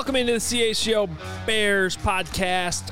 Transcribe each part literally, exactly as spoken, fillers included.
Welcome into the C H G O Bears podcast,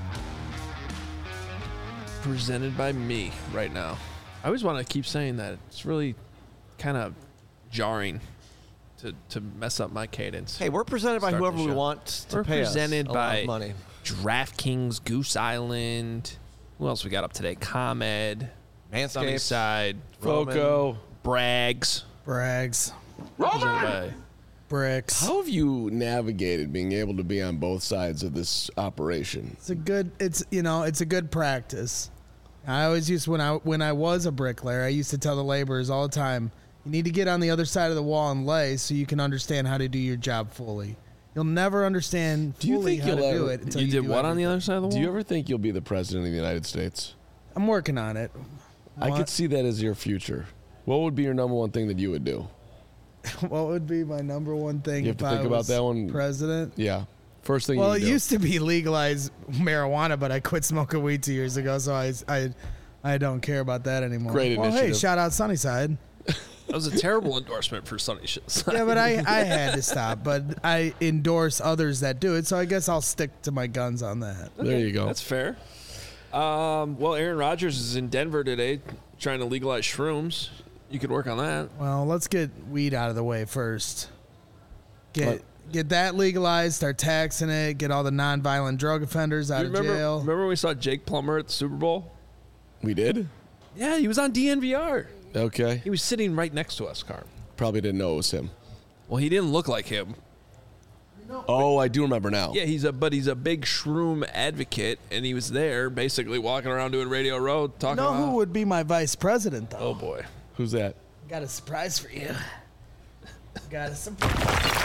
presented by me right now. I always want to keep saying that. It's really kind of jarring to, to mess up my cadence. Hey, we're presented by whoever we want to we're pay presented us a by lot of money. DraftKings, Goose Island. Who else we got up today? ComEd, Manscaped, Sunnyside, Roman, Foco, Brags. Brags. Presented by Bricks. How have you navigated being able to be on both sides of this operation? It's a good. It's you know. It's a good practice. I always used when I when I was a bricklayer. I used to tell the laborers all the time, you need to get on the other side of the wall and lay so you can understand how to do your job fully. You'll never understand Do you fully think how you'll to ever- do it until You you, did do what on the everything. other side of the wall? Do you ever think you'll be the president of the United States? I'm working on it. I What? could see that as your future. What would be your number one thing that you would do? What would be my number one thing? You have if to I think about was that one. President. Yeah. First thing Well, you it would do. used to be legalized marijuana, but I quit smoking weed two years ago, so I I, I don't care about that anymore. Great well, hey, initiative. shout out Sunnyside. That was a terrible endorsement for Sunny Shit. Yeah, but I, I had to stop. But I endorse others that do it, so I guess I'll stick to my guns on that. There you go. That's fair. Um, well, Aaron Rodgers is in Denver today trying to legalize shrooms. You could work on that. Well, let's get weed out of the way first. Get What? get that legalized, start taxing it, get all the nonviolent drug offenders out You of remember, jail. remember when we saw Jake Plummer at the Super Bowl? We did? Yeah, he was on D N V R. Okay. He was sitting right next to us, Carm. Probably didn't know it was him. Well, he didn't look like him. Oh, I do remember now. Yeah, he's a but he's a big shroom advocate, and he was there basically walking around doing Radio Road talking know about. who would be my vice president, though? Oh boy. Who's that? Got a surprise for you. Got a surprise.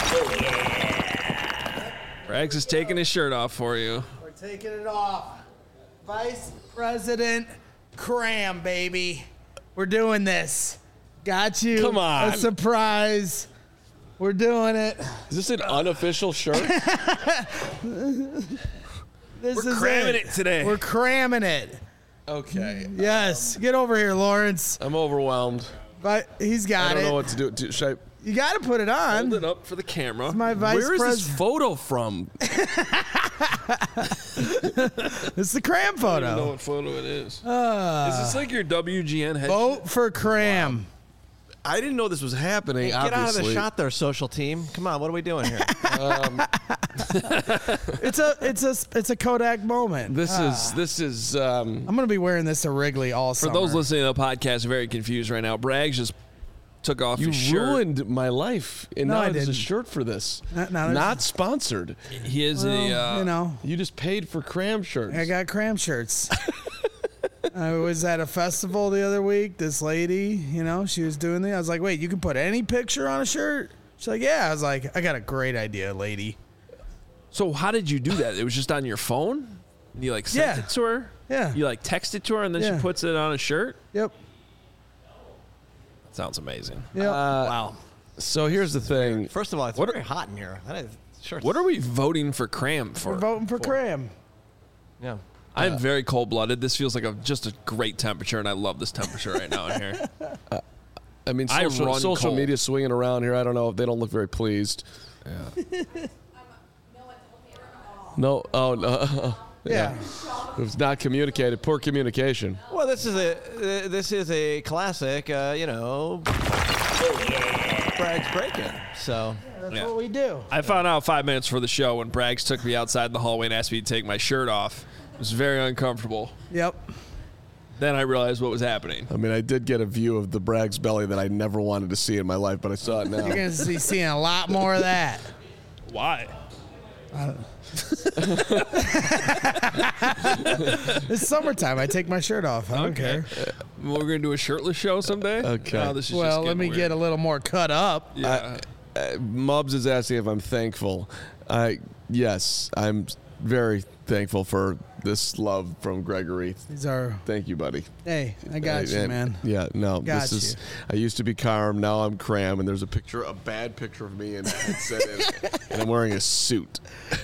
Rags is taking his shirt off for you. We're taking it off. Vice President Cram, baby. We're doing this. Got you. Come on. A surprise. We're doing it. Is this an unofficial shirt? This We're is cramming it today. We're cramming it. Okay. Yes. Get over here, Lawrence. I'm overwhelmed. But he's got I don't it. know what to do. Do- Should I... You got to put it on. Hold it up for the camera. My vice Where is this president. photo from? It's the Cram I don't know photo. what photo it is. is this like your W G N head? Vote for Cram. I didn't know this was happening, Get out of obviously. the shot there, social team. Come on, what are we doing here? It's a it's a it's a Kodak moment. This is, this is, um... I'm gonna be wearing this to Wrigley all For summer. those listening to the podcast, very confused right now. Braggs just took off You his shirt. ruined my life, and No, now I there's a didn't. shirt for this. No, no, there's- Not sponsored. He is Well, a. Uh, you know, You just paid for cram shirts. I got Cram shirts. I was at a festival the other week. This lady, you know, she was doing the. I was like, wait, you can put any picture on a shirt? She's like, yeah. I was like, I got a great idea, lady. So how did you do that? It was just on your phone? And you like sent Yeah. it to her? Yeah. You like text it to her and then Yeah. she puts it on a shirt? Yep. That sounds amazing. Yep. Wow. So here's the thing. First of all, it's What very hot in here. That is, sure. What are we voting for Cram for? We're voting for Cram. Yeah. I'm very cold blooded. This feels like a just a great temperature, and I love this temperature right now in here. I mean, I social, run social cold. media swinging around here. I don't know if they don't look very pleased. No, oh no, Yeah. it was not communicated. Poor communication. Well, this is a uh, this is a classic, uh, you know, Bragg's break-in. So That's Yeah. what we do. I found out five minutes for the show when Braggs took me outside the hallway and asked me to take my shirt off. It was very uncomfortable. Yep. Then I realized what was happening. I mean, I did get a view of the Bragg's belly that I never wanted to see in my life, but I saw it now. You're going to be seeing a lot more of that. Why? It's summertime. I take my shirt off. I don't care. We're going to do a shirtless show someday? Okay. No, this is Well, just let me getting get a weird. little more cut up. Yeah. Uh, Mubs is asking if I'm thankful. I yes, I'm very thankful for this love from Gregory. These are. Thank you, buddy. Hey, I got you, And- man. Yeah, no, Got this is. you. I used to be Carm, now I'm Cram, and there's a picture, a bad picture of me in a headset, and, and I'm wearing a suit.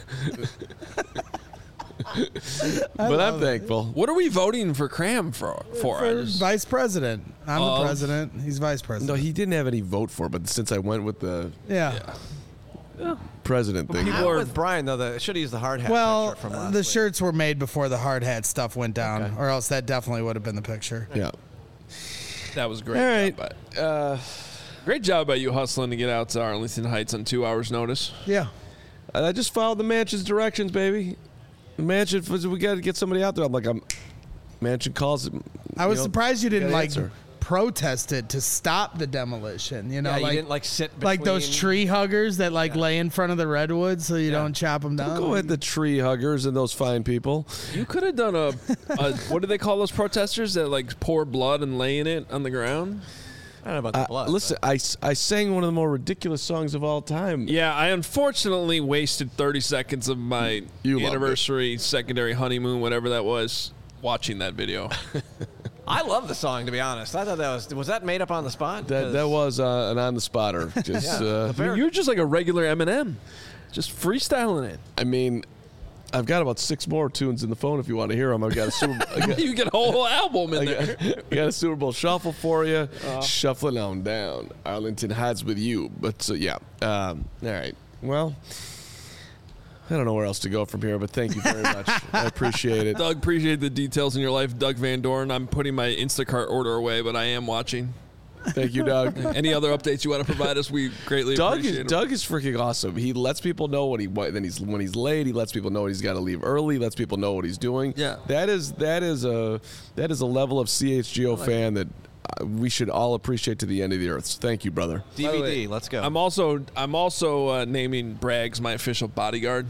but I'm love it. thankful. What are we voting for Cram for? for? I For just- vice president. I'm Of- the president. He's vice No, president. he didn't have any vote for, but since I went with the, yeah. president thing. people I'm are- with Brian though. The should have used the hard hat. Well, picture from last the week. shirts were made before the hard hat stuff went down, Okay. or else that definitely would have been the picture. Yeah. That was great. All right. job by- Uh, Great job by you hustling to get out to Arlington Heights on two hours' notice. Yeah. I just followed the Mansion's directions, baby. The Mansion, we got to get somebody out there. I'm like, I'm. Mansion calls. I was you know, surprised you didn't gotta like answer. protest it to stop the demolition. You know, Yeah, like you didn't like sit like those between- tree huggers that like lay in front of the redwoods so you Yeah. don't chop them down. Go ahead, the tree huggers and those fine people. You could have done a, a what do they call those protesters that like pour blood and lay in it on the ground? I don't know about the Uh, blood. listen, I, s- I sang one of the more ridiculous songs of all time. Yeah, I unfortunately wasted thirty seconds of my You loved anniversary, secondary honeymoon, whatever that was, watching that video. I love the song, to be honest. I thought that was was that made up on the spot? That that 'Cause- was uh, an on the spotter. Just, Yeah. uh, The I mean, you're just like a regular Eminem, just freestyling it. I mean, I've got about six more tunes in the phone if you want to hear them. I've got a Super, I got, You get a whole album in I there. got, I got a Super Bowl shuffle for you. Uh. Shuffling on down. Arlington Heights with you. But uh, yeah. Um, all right. Well, I don't know where else to go from here, but thank you very much. I appreciate it. Doug, appreciate the details in your life. Doug Van Dorn. I'm putting my Instacart order away, but I am watching. Thank you, Doug. Any other updates you want to provide us? We greatly Doug appreciate is them. Doug is freaking awesome. He lets people know what he what, then he's when he's late. He lets people know he's got to leave early. Lets people know what he's doing. Yeah. that is that is a that is a level of C H G O fan that uh, we should all appreciate to the end of the earth. So thank you, brother. D By V the D. way, Let's go. I'm also I'm also uh, naming Braggs my official bodyguard.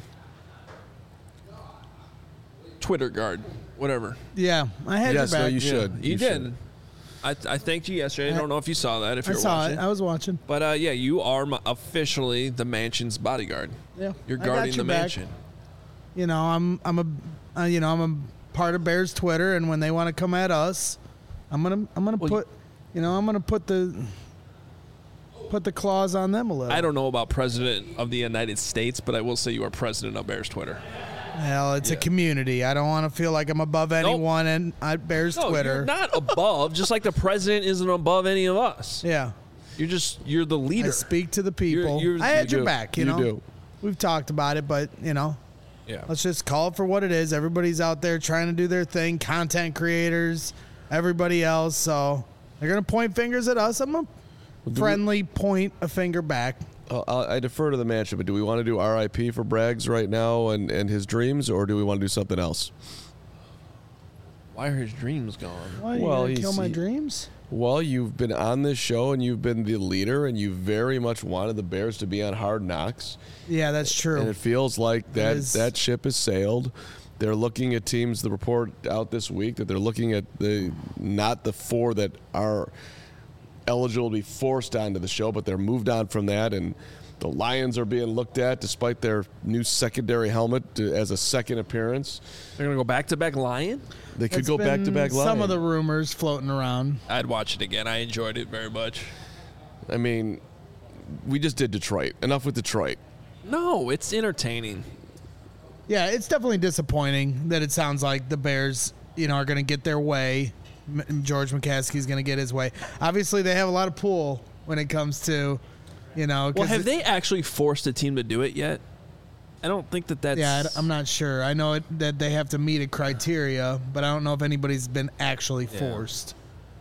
Twitter guard, whatever. Yeah, I had Yes, your no, back. you should. You, You did. should. I, I thanked you yesterday. I don't know if you saw that. If I you're saw watching, it. I was watching. but uh, yeah, you are my, officially the mansion's bodyguard. Yeah, You're I got guarding your the back. mansion. You know, I'm I'm a uh, you know I'm a part of Bears Twitter, and when they want to come at us, I'm gonna I'm gonna Well, put you know I'm gonna put the put the claws on them a little. I don't know about president of the United States, but I will say you are president of Bears Twitter. Hell, it's a Yeah. community. I don't want to feel like I'm above anyone and at Bears No, Twitter. you're not above. Just like the president isn't above any of us. Yeah, You're just you're the I leader. speak to the people. you're- I had you your do. back. You, You know, do. we've talked about it, but you know, Yeah. let's just call it for what it is. Everybody's out there trying to do their thing. Content creators, everybody else. So they're gonna point fingers at us. I'm gonna do we- friendly point a finger back. Uh, I I defer to the mansion, but do we want to do R I P for Braggs right now and, and his dreams, or do we want to do something else? Why are his dreams gone? Why, you Well, gonna he's- kill my he- dreams? Well, you've been on this show and you've been the leader, and you very much wanted the Bears to be on Hard Knocks. Yeah, that's true. And it feels like that is- that ship has sailed. They're looking at teams. The report out this week that they're looking at the not the four that are eligible to be forced onto the show, but they're moved on from that. And the Lions are being looked at despite their new secondary helmet to, as a second appearance. They're gonna go back to back Lion. They could It's go back to been back. Some of the rumors floating around. I'd watch it again. I enjoyed it very much. I mean, we just did Detroit. Enough with Detroit. No, it's entertaining. Yeah, it's definitely disappointing that it sounds like the Bears, you know, are going to get their way. M- George McCaskey's going to get his way. Obviously, they have a lot of pull when it comes to, you know. 'cause Well, have it- they actually forced a team to do it yet? I don't think that that's. Yeah, I- I'm not sure. I know it, that they have to meet a criteria, but I don't know if anybody's been actually Yeah. forced.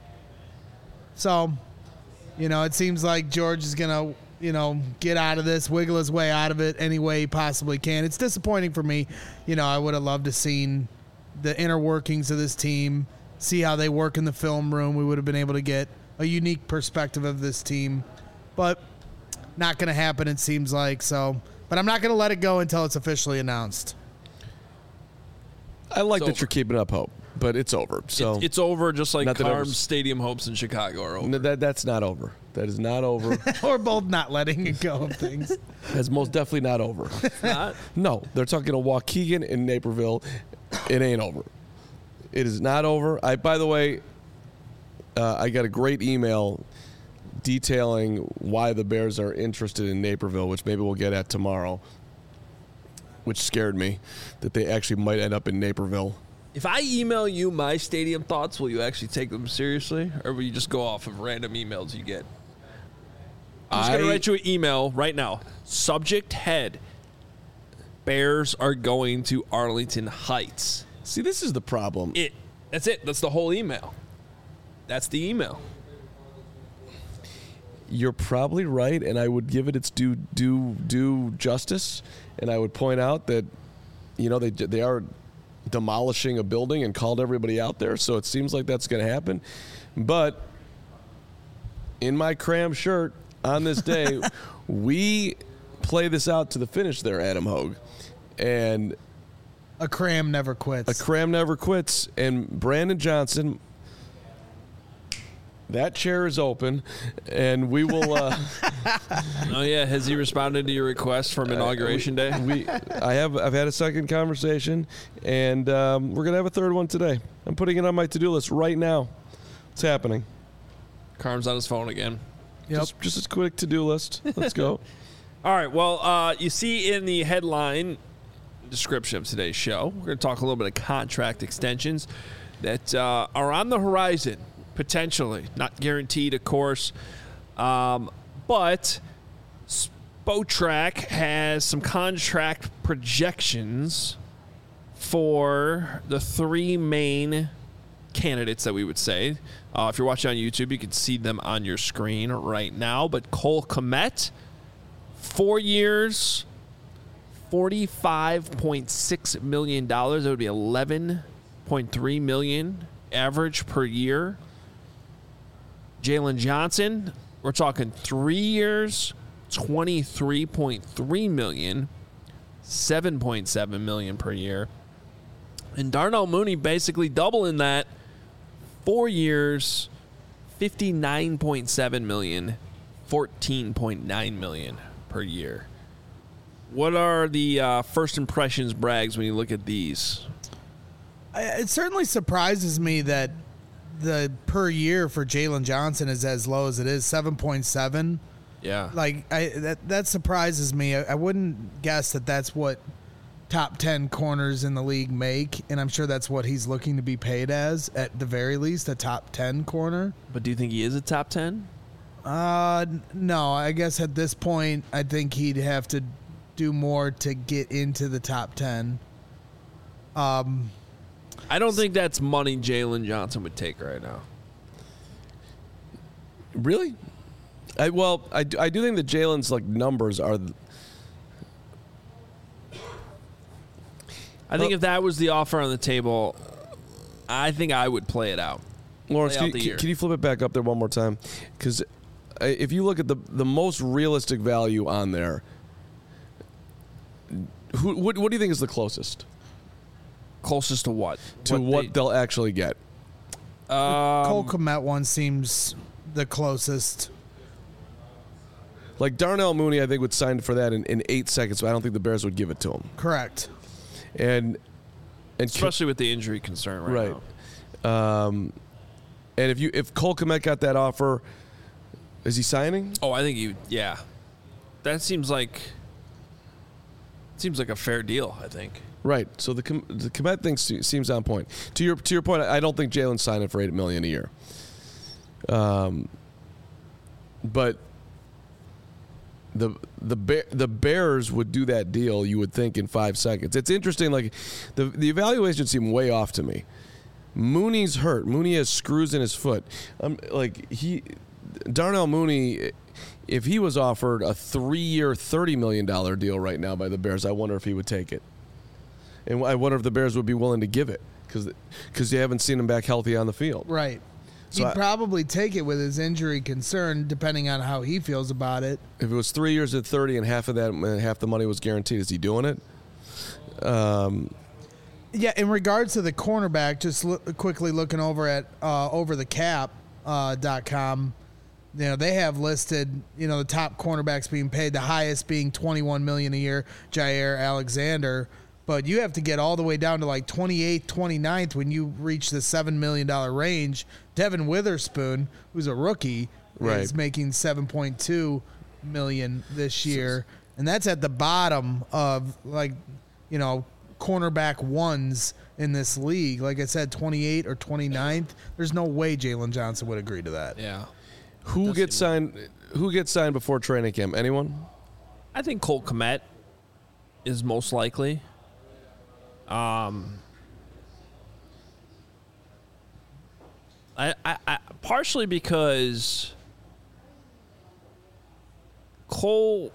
So, you know, it seems like George is going to, you know, get out of this, wiggle his way out of it any way he possibly can. It's disappointing for me. You know, I would have loved to seen the inner workings of this team, see how they work in the film room. We would have been able to get a unique perspective of this team, but not going to happen, it seems like. So, but I'm not going to let it go until it's officially announced. I like It's that over. you're keeping up hope, but it's over. So It- it's over, just like Not that it was- Carm's Stadium hopes in Chicago are over. No, that that's not over. That is not over. We're both not letting it go of things. That's most definitely not over. Not? No, they're talking to Waukegan in Naperville. It ain't over. It is not over. I, by the way, uh, I got a great email detailing why the Bears are interested in Naperville, which maybe we'll get at tomorrow, which scared me that they actually might end up in Naperville. If I email you my stadium thoughts, will you actually take them seriously, or will you just go off of random emails you get? I'm just going I- to write you an email right now. Subject head. Bears are going to Arlington Heights. See, this is the problem. It. That's it. That's the whole email. That's the email. You're probably right, and I would give it its due due due justice, and I would point out that, you know, they they are demolishing a building and called everybody out there, so it seems like that's going to happen. But in my cram shirt on this day, we play this out to the finish there, Adam Hogue, and A cram never quits. a cram never quits. And Brandon Johnson, that chair is open, and we will. Uh, Oh yeah, has he responded to your request from inauguration day? we, I have. I've had a second conversation, and um, we're gonna have a third one today. I'm putting it on my to-do list right now. It's happening. Carm's on his phone again. Yep. Just, just a quick to-do list. Let's go. All right. Well, uh, you see in the headline description of today's show, we're going to talk a little bit of contract extensions that uh, are on the horizon, potentially. Not guaranteed, of course. Um, but Spotrac has some contract projections for the three main candidates that we would say. Uh, if you're watching on YouTube, you can see them on your screen right now. But Cole Kmet, four years, forty-five point six million dollars. That would be eleven point three million dollars average per year. Jalen Johnson, we're talking three years, twenty-three point three million dollars, seven point seven million dollars per year. And Darnell Mooney basically doubling that. Four years, fifty-nine point seven million dollars, fourteen point nine million dollars per year. What are the uh, first impressions, Braggs, when you look at these? I- It certainly surprises me that the per year for Jalen Johnson is as low as it is, seven point seven. Yeah. Like I that that surprises me. I, I wouldn't guess that that's what top ten corners in the league make, and I'm sure that's what he's looking to be paid as, at the very least, a top ten corner. But do you think he is a top ten? Uh, n- no, I guess at this point, I think he'd have to do more to get into the top ten. Um, I don't think that's money Jalen Johnson would take right now. Really? I, well, I, do- I do think that Jalen's like numbers are. I think Well- if that was the offer on the table, I think I would play it out. Lawrence, Play can, out the can- year. can you flip it back up there one more time? Because if you look at the the most realistic value on there, who what, what do you think is the closest Closest to what? to what, they- they'll actually get? Um, Cole Kmet one seems the closest. Like Darnell Mooney, I think would sign for that in, in eight seconds, but I don't think the Bears would give it to him. Correct. And and especially with the injury concern right, right. now. Um, and if you if Cole Kmet got that offer, is he signing? Oh, I think you. Yeah, that seems like seems like a fair deal. I think. Right. So the Com- the Kmet thing se- seems on point. To your to your point, I don't think Jalen's signing for eight million a year. Um, but the the Bear, the Bears would do that deal, you would think, in five seconds. It's interesting. Like the the evaluations seem way off to me. Mooney's hurt. Mooney has screws in his foot. Um, like he, Darnell Mooney, if he was offered a three-year, thirty million dollar deal right now by the Bears, I wonder if he would take it. And I wonder if the Bears would be willing to give it because because they haven't seen him back healthy on the field. Right. So He'd I- probably take it with his injury concern, depending on how he feels about it. If it was three years at thirty and half of that, uh, half the money was guaranteed, is he doing it? Um, Yeah, in regards to the cornerback, just look, quickly looking over at uh, over the cap uh, dot com, you know, they have listed, you know, the top cornerbacks being paid, the highest being twenty-one million dollars a year, Jair Alexander. But you have to get all the way down to like twenty-eighth, twenty-ninth when you reach the seven million dollars range. Devin Witherspoon, who's a rookie, Right. is making seven point two million dollars this year. And that's at the bottom of, like, you know, cornerback ones in this league. Like I said, twenty-eighth or twenty-ninth. There's no way Jalen Johnson would agree to that. Yeah. Who Does gets seem- signed? Who gets signed before training camp? Anyone? I think Cole Kmet is most likely. Um, I, I, I partially because Cole.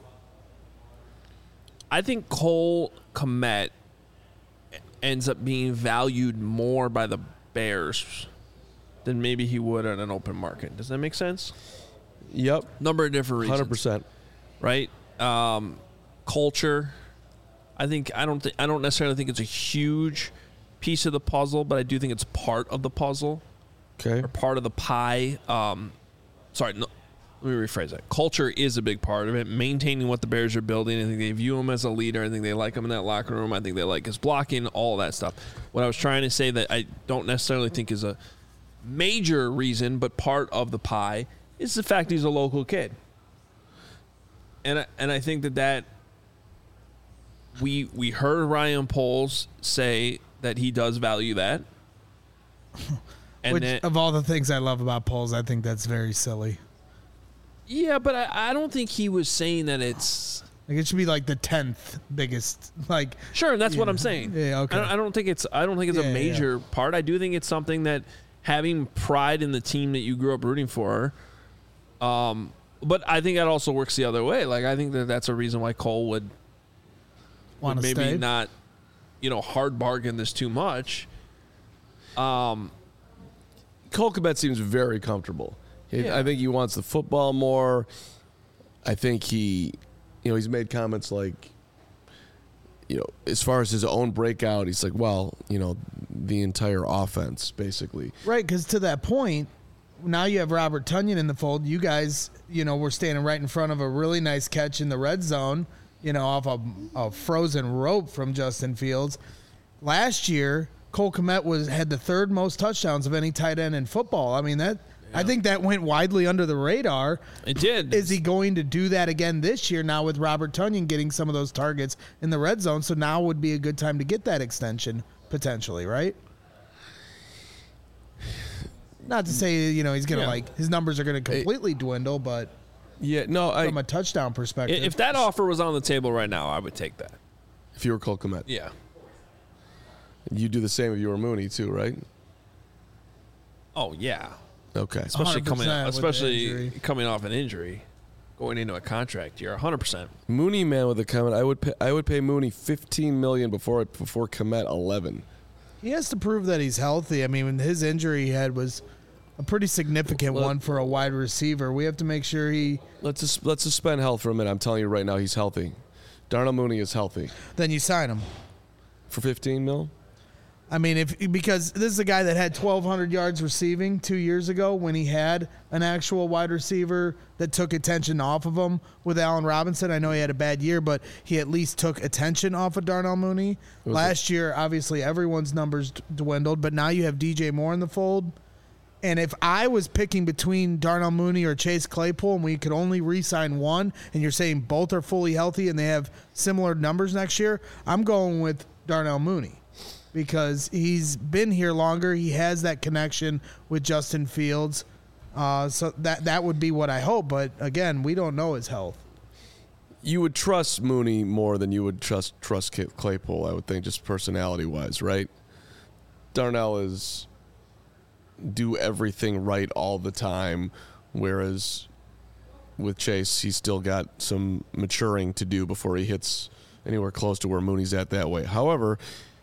I think Cole Kmet ends up being valued more by the Bears than maybe he would on an open market. Does that make sense? Yep. Number of different reasons. one hundred percent. Right? Um, culture. I think I don't think I don't necessarily think it's a huge piece of the puzzle, but I do think it's part of the puzzle Okay. or part of the pie. Um, sorry, no, let me rephrase that. Culture is a big part of it. Maintaining what the Bears are building. I think they view him as a leader. I think they like him in that locker room. I think they like his blocking, all that stuff. What I was trying to say that I don't necessarily think is a major reason, but part of the pie is the fact he's a local kid. And I, and I think that that we we heard Ryan Poles say that he does value that. And Which, that, of all the things I love about polls, I think that's very silly. yeah, but I, I don't think he was saying that it's Like it should be like the tenth biggest. Like sure, and that's what Yeah. I'm saying. Yeah, okay. I don't, I don't think it's I don't think it's Yeah, a yeah. major part. I do think it's something that having pride in the team that you grew up rooting for. Um, but I think that also works the other way. Like I think that that's a reason why Cole would, would want to maybe stay. not, you know, hard bargain this too much. Um, Cole Kmet seems very comfortable. He- Yeah. I think he wants the football more. I think he, you know, he's made comments like, you know, as far as his own breakout, he's like, well, you know, the entire offense, basically. Right, because to that point, now you have Robert Tonyan in the fold. You guys, you know, were standing right in front of a really nice catch in the red zone, you know, off a, a frozen rope from Justin Fields. Last year, Cole Kmet was had the third most touchdowns of any tight end in football. I mean, that I think that went widely under the radar. it did. Is he going to do that again this year now with Robert Tonyan getting some of those targets in the red zone? So now would be a good time to get that extension potentially, right? Not to say, you know, he's going to Yeah. like his numbers are going to completely dwindle, but Yeah, no, I, from a touchdown perspective. If that offer was on the table right now, I would take that. if you were Cole Kmet, Yeah. you'd do the same if you were Mooney too, right? Oh yeah. Okay. Especially coming, one hundred percent with the especially injury. coming off an injury, going into a contract year, one hundred percent. Mooney man with a comment. I would pay, I would pay Mooney fifteen million before before Kmet eleven. he has to prove that he's healthy. I mean, his injury he had was a pretty significant Well, one for a wide receiver. We have to make sure he Let's just, let's suspend health for a minute. I'm telling you right now, he's healthy. Darnell Mooney is healthy then you sign him. for fifteen mil. I mean, if because this is a guy that had twelve hundred yards receiving two years ago when he had an actual wide receiver that took attention off of him with Allen Robinson. I know he had a bad year, but he at least took attention off of Darnell Mooney. Was Last year, obviously, everyone's numbers d- dwindled, but now you have D J Moore in the fold. And if I was picking between Darnell Mooney or Chase Claypool and we could only re-sign one, and you're saying both are fully healthy and they have similar numbers next year, I'm going with Darnell Mooney because he's been here longer. He has that connection with Justin Fields. Uh, so that that would be what I hope. But again, we don't know his health. You would trust Mooney more than you would trust trust Kit Claypool, I would think, just personality wise, right? Darnell is do everything right all the time, whereas with Chase, he's still got some maturing to do before he hits anywhere close to where Mooney's at that way. However,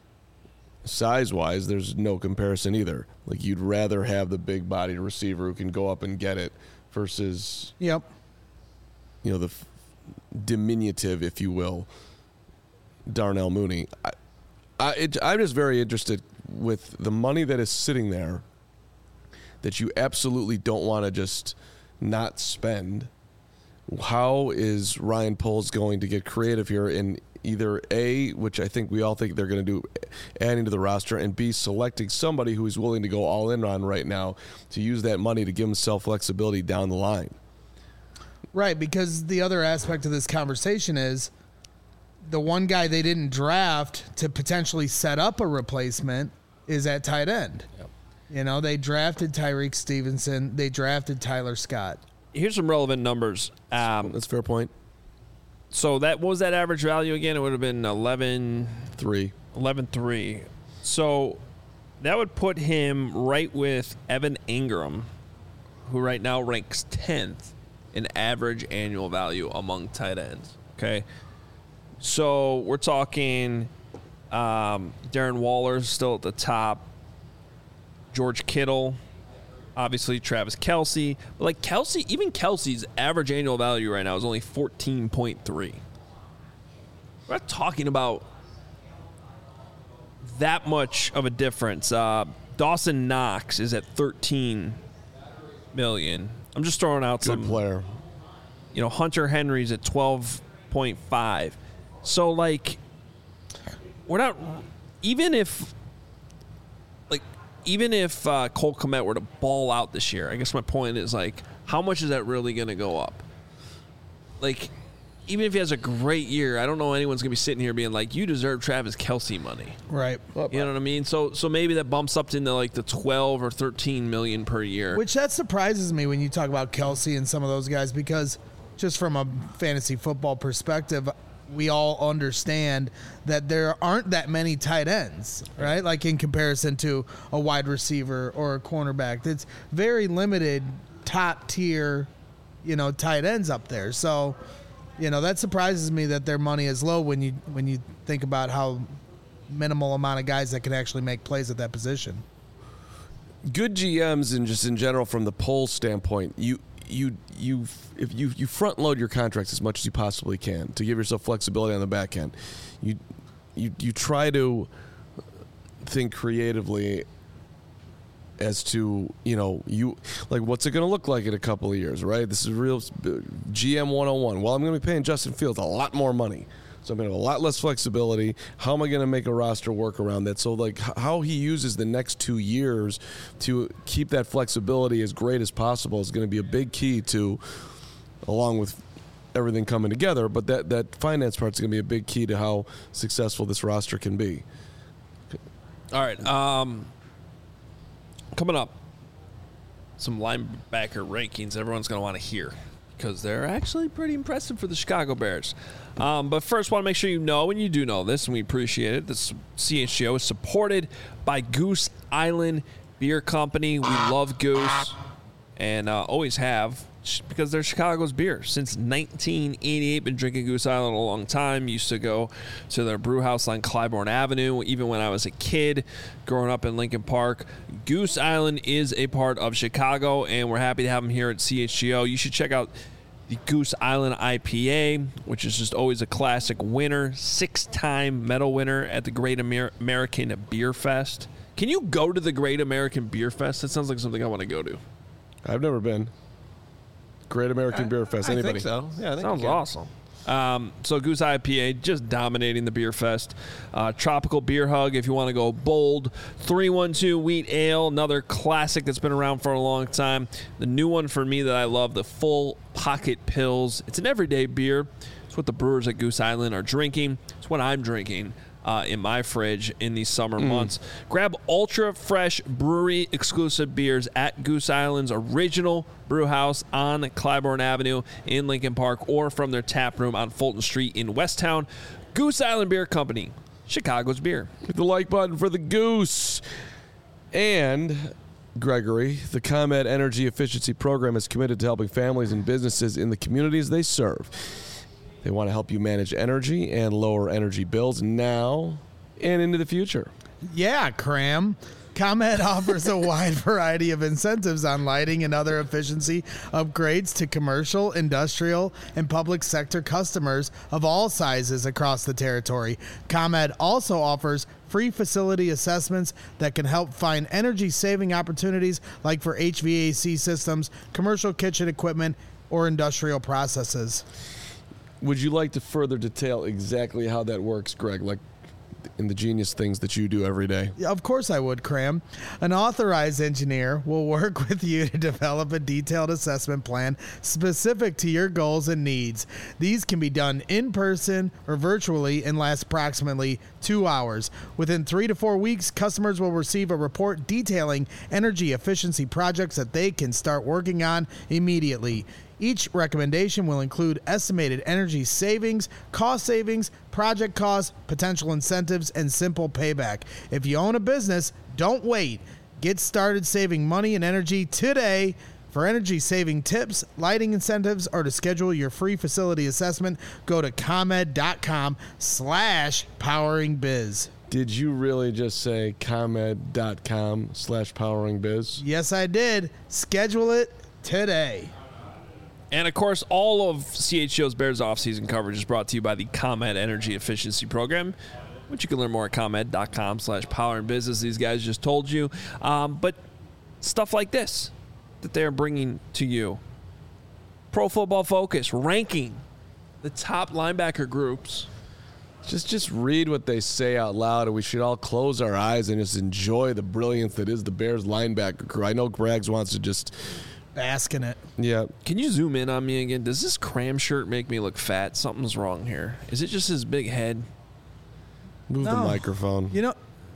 size-wise, there's no comparison either. Like, you'd rather have the big-bodied receiver who can go up and get it versus, Yep. you know, the f- diminutive, if you will, Darnell Mooney. I, I, it, I'm just very interested with the money that is sitting there that you absolutely don't want to just not spend. How is Ryan Poles going to get creative here in either A, which I think we all think they're going to do, adding to the roster, and B, selecting somebody who is willing to go all in on right now to use that money to give himself flexibility down the line? Right, because the other aspect of this conversation is the one guy they didn't draft to potentially set up a replacement is at tight end. Yep. You know, they drafted Tyreek Stevenson. They drafted Tyler Scott. here's some relevant numbers. Um, That's a fair point. so that what was that average value again? It would have been eleven, Three. eleven three. So that would put him right with Evan Ingram, who right now ranks tenth in average annual value among tight ends. Okay. So we're talking um, Darren Waller's still at the top. George Kittle, obviously Travis Kelce. But like Kelce, even Kelce's average annual value right now is only fourteen point three. We're not talking about that much of a difference. Uh, Dawson Knox is at thirteen million. I'm just throwing out Good some player. You know, Hunter Henry's at twelve point five. So, like, we're not, even if, like, even if uh, Cole Kmet were to ball out this year, I guess my point is, like, how much is that really going to go up? Like, even if he has a great year, I don't know anyone's going to be sitting here being like, you deserve Travis Kelce money. Right. You know what I mean? So so maybe that bumps up into like the twelve or thirteen million per year. Which that surprises me when you talk about Kelce and some of those guys, because just from a fantasy football perspective, we all understand that there aren't that many tight ends, right? Like in comparison to a wide receiver or a cornerback. It's very limited top tier, you know, tight ends up there. So, you know, that surprises me that their money is low when you when you think about how minimal amount of guys that can actually make plays at that position. Good G Ms and just in general from the poll standpoint, you you you if you you front load your contracts as much as you possibly can to give yourself flexibility on the back end. You you you try to think creatively as to, you know, you like what's it going to look like in a couple of years, right? This is real G M one oh one. Well, I'm going to be paying Justin Fields a lot more money. So I'm going to have a lot less flexibility. How am I going to make a roster work around that? So, like, how he uses the next two years to keep that flexibility as great as possible is going to be a big key to, along with everything coming together, but that, that finance part is going to be a big key to how successful this roster can be. All right. Um, coming up, some linebacker rankings everyone's going to want to hear because they're actually pretty impressive for the Chicago Bears. Um, but first, want to make sure you know, and you do know this, and we appreciate it, this C H G O is supported by Goose Island Beer Company. We love Goose and uh, always have because they're Chicago's beer. Since nineteen eighty-eight, been drinking Goose Island a long time. Used to go to their brew house on Clybourne Avenue, even when I was a kid growing up in Lincoln Park. Goose Island is a part of Chicago, and we're happy to have them here at C H G O. You should check out the Goose Island I P A, which is just always a classic winner, six-time medal winner at the Great Amer- American Beer Fest. Can you go to the Great American Beer Fest? That sounds like something I want to go to. I've never been. Great American I, Beer Fest. I Anybody? think so. Yeah, I think Sounds you can. awesome. Um, so Goose I P A just dominating the beer fest. Uh, Tropical Beer Hug if you want to go bold. three one two Wheat Ale, another classic that's been around for a long time. The new one for me that I love, the Full Pocket Pills. It's an everyday beer. It's what the brewers at Goose Island are drinking. It's what I'm drinking uh, in my fridge in these summer mm. months. Grab ultra fresh brewery exclusive beers at Goose Island's original brew house on Clybourne Avenue in Lincoln Park, or from their tap room on Fulton Street in Westtown. Goose Island Beer Company, Chicago's beer. Hit the like button for the Goose. And Gregory, the ComEd Energy Efficiency Program is committed to helping families and businesses in the communities they serve. They want to help you manage energy and lower energy bills now and into the future. Yeah, Cram. ComEd offers a wide variety of incentives on lighting and other efficiency upgrades to commercial, industrial, and public sector customers of all sizes across the territory. ComEd also offers free facility assessments that can help find energy-saving opportunities like for H V A C systems, commercial kitchen equipment, or industrial processes. Would you like to further detail exactly how that works, Greg? Like, in the genius things that you do every day. Of course I would, Cram. An authorized engineer will work with you to develop a detailed assessment plan specific to your goals and needs. These can be done in person or virtually and last approximately two hours. Within three to four weeks, customers will receive a report detailing energy efficiency projects that they can start working on immediately. Each recommendation will include estimated energy savings, cost savings, project costs, potential incentives, and simple payback. If you own a business, don't wait. Get started saving money and energy today. For energy saving tips, lighting incentives, or to schedule your free facility assessment, go to ComEd.com slash powering biz. Did you really just say ComEd.com slash powering biz? Yes, I did. Schedule it today. And, of course, all of C H G O's Bears offseason coverage is brought to you by the ComEd Energy Efficiency Program, which you can learn more at ComEd.com slash power and business. These guys just told you. Um, but stuff like this that they're bringing to you. Pro Football Focus ranking the top linebacker groups. Just just read what they say out loud, and we should all close our eyes and just enjoy the brilliance that is the Bears linebacker crew. I know Grags wants to just... Bask in it. Yeah. Can you zoom in on me again? Does this Cram shirt make me look fat? Something's wrong here. Is it just his big head? Move No. the microphone. You know,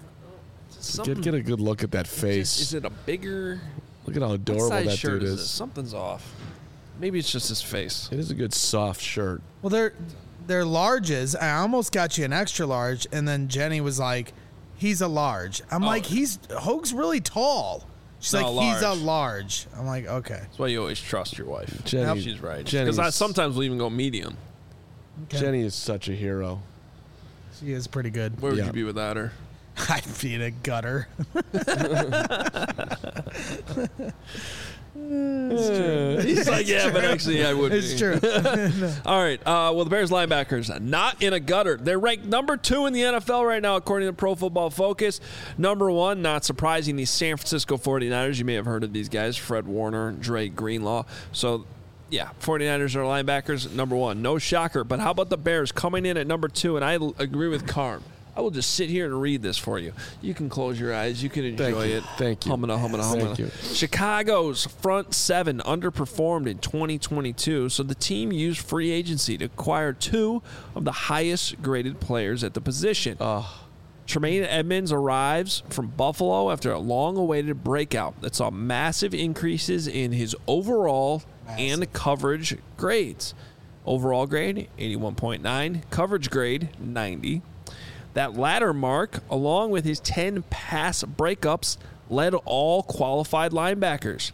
Get, get a good look at that face. Is it a bigger... Look at how adorable what size that shirt dude is is. this? Something's off. Maybe it's just his face. It is a good soft shirt. well, they're, they're larges. I almost got you an extra large, and then Jenny was like, he's a large. I'm Oh. like, he's Hoag's really tall. She's No, like, he's a large. large. I'm like, okay. That's why you always trust your wife. Jenny- She's right. Jenny's- Because I sometimes will even go medium. okay. Jenny is such a hero. She is pretty good. Where would Yeah. you be without her? I'd be in a gutter. He's like, yeah, but actually I would It's be. true. All right. Uh, well, the Bears linebackers, not in a gutter. They're ranked number two in the N F L right now, according to Pro Football Focus. Number one, not surprising, the San Francisco forty-niners. You may have heard of these guys, Fred Warner, Dre Greenlaw. So, yeah, forty-niners are linebackers, number one. No shocker. But how about the Bears coming in at number two? And I l- agree with Carm. I will just sit here and read this for you. You can close your eyes. You can enjoy Thank you. it. Thank you. Humming, humming, humming. Thank you. Chicago's front seven underperformed in twenty twenty-two, so the team used free agency to acquire two of the highest graded players at the position. Oh, Tremaine Edmonds arrives from Buffalo after a long-awaited breakout that saw massive increases in his overall and coverage grades. Overall grade, eighty-one point nine. Coverage grade, ninety. That latter mark, along with his ten pass breakups, led all qualified linebackers.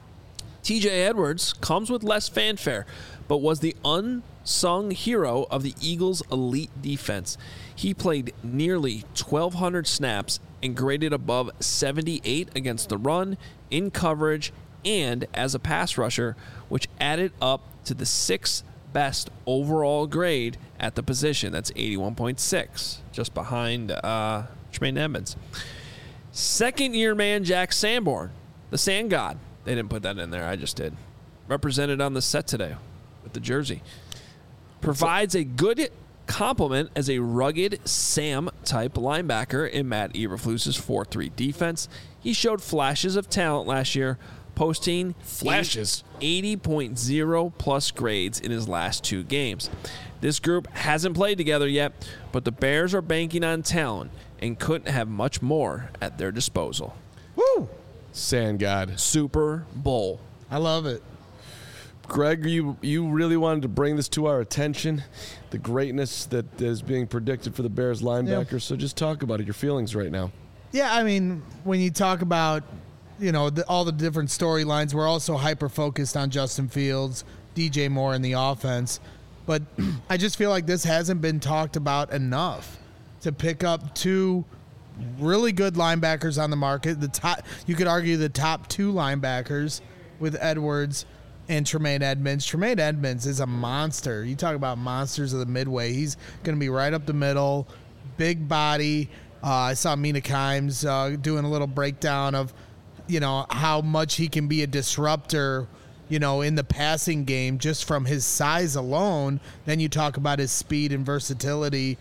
T J Edwards comes with less fanfare, but was the unsung hero of the Eagles' elite defense. He played nearly twelve hundred snaps and graded above seventy-eight against the run, in coverage, and as a pass rusher, which added up to the sixth best overall grade at the position. That's eighty-one point six, just behind uh, Tremaine Edmonds. Second-year man Jack Sanborn, the Sand God. They didn't put that in there. I just did. Represented on the set today with the jersey. Provides a good complement as a rugged Sam-type linebacker in Matt Eberflus's four three defense. He showed flashes of talent last year, posting Flashes? eighty point oh plus grades in his last two games. This group hasn't played together yet, but the Bears are banking on talent and couldn't have much more at their disposal. Woo! Sand God. Super Bowl. I love it. Greg, you you really wanted to bring this to our attention, the greatness that is being predicted for the Bears linebackers. Yeah. So just talk about it, your feelings right now. Yeah, I mean, when you talk about, you know, the, all the different storylines, we're also hyper-focused on Justin Fields, D J Moore, and the offense. But I just feel like this hasn't been talked about enough to pick up two really good linebackers on the market. The top, you could argue the top two linebackers with Edwards and Tremaine Edmonds. Tremaine Edmonds is a monster. You talk about monsters of the midway. He's going to be right up the middle, big body. Uh, I saw Mina Kimes uh, doing a little breakdown of, you know, how much he can be a disruptor, you know, in the passing game just from his size alone. Then you talk about his speed and versatility. Uh,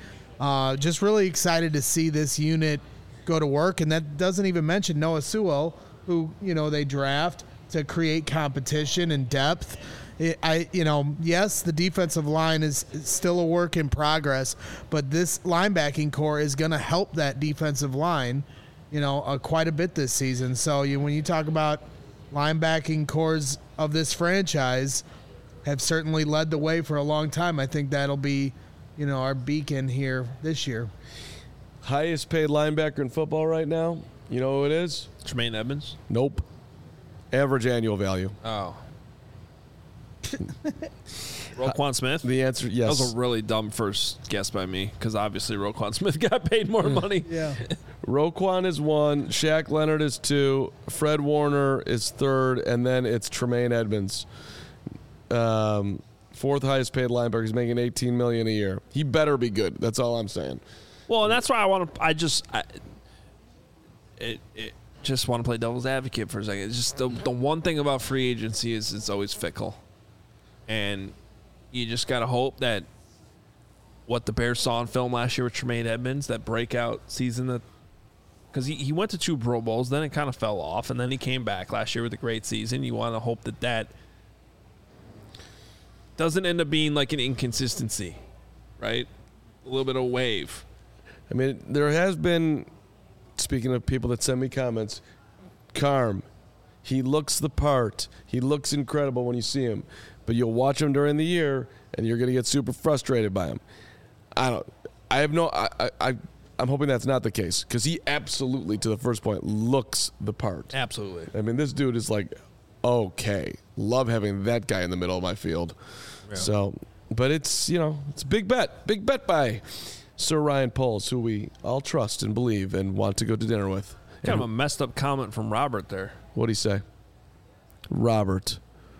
Uh, just really excited to see this unit go to work, and that doesn't even mention Noah Sewell, who, you know, they draft to create competition and depth. It, I, you know, yes, the defensive line is still a work in progress, but this linebacking core is going to help that defensive line, you know, uh, quite a bit this season. So you, when you talk about linebacking cores of this franchise, have certainly led the way for a long time. I think that'll be, you know, our beacon here this year. Highest paid linebacker in football right now, you know who it is? Tremaine Edmonds? Nope. Average annual value. Oh. Roquan Smith? The answer, yes. That was a really dumb first guess by me, because obviously Roquan Smith got paid more money. Yeah. Roquan is one, Shaq Leonard is two, Fred Warner is third, and then it's Tremaine Edmonds. Um, fourth highest paid linebacker. He's making eighteen million dollars a year. He better be good. That's all I'm saying. Well, and that's why I want to. I just, I, it, it just want to play devil's advocate for a second. It's just the the one thing about free agency is it's always fickle, and you just gotta hope that what the Bears saw in film last year with Tremaine Edmonds, that breakout season, that because he, he went to two Pro Bowls, then it kind of fell off, and then he came back last year with a great season. You want to hope that that doesn't end up being like an inconsistency, right? A little bit of wave. I mean, there has been, speaking of people that send me comments, Carm, he looks the part. He looks incredible when you see him. But you'll watch him during the year, and you're going to get super frustrated by him. I don't. I have no. I. I. I'm hoping that's not the case, because he absolutely, to the first point, looks the part. Absolutely. I mean, this dude is like, okay, love having that guy in the middle of my field. Yeah. So, but it's, you know, it's a big bet, big bet by Sir Ryan Poles, who we all trust and believe and want to go to dinner with. Kind and of a messed up comment from Robert there. What'd he say? Robert.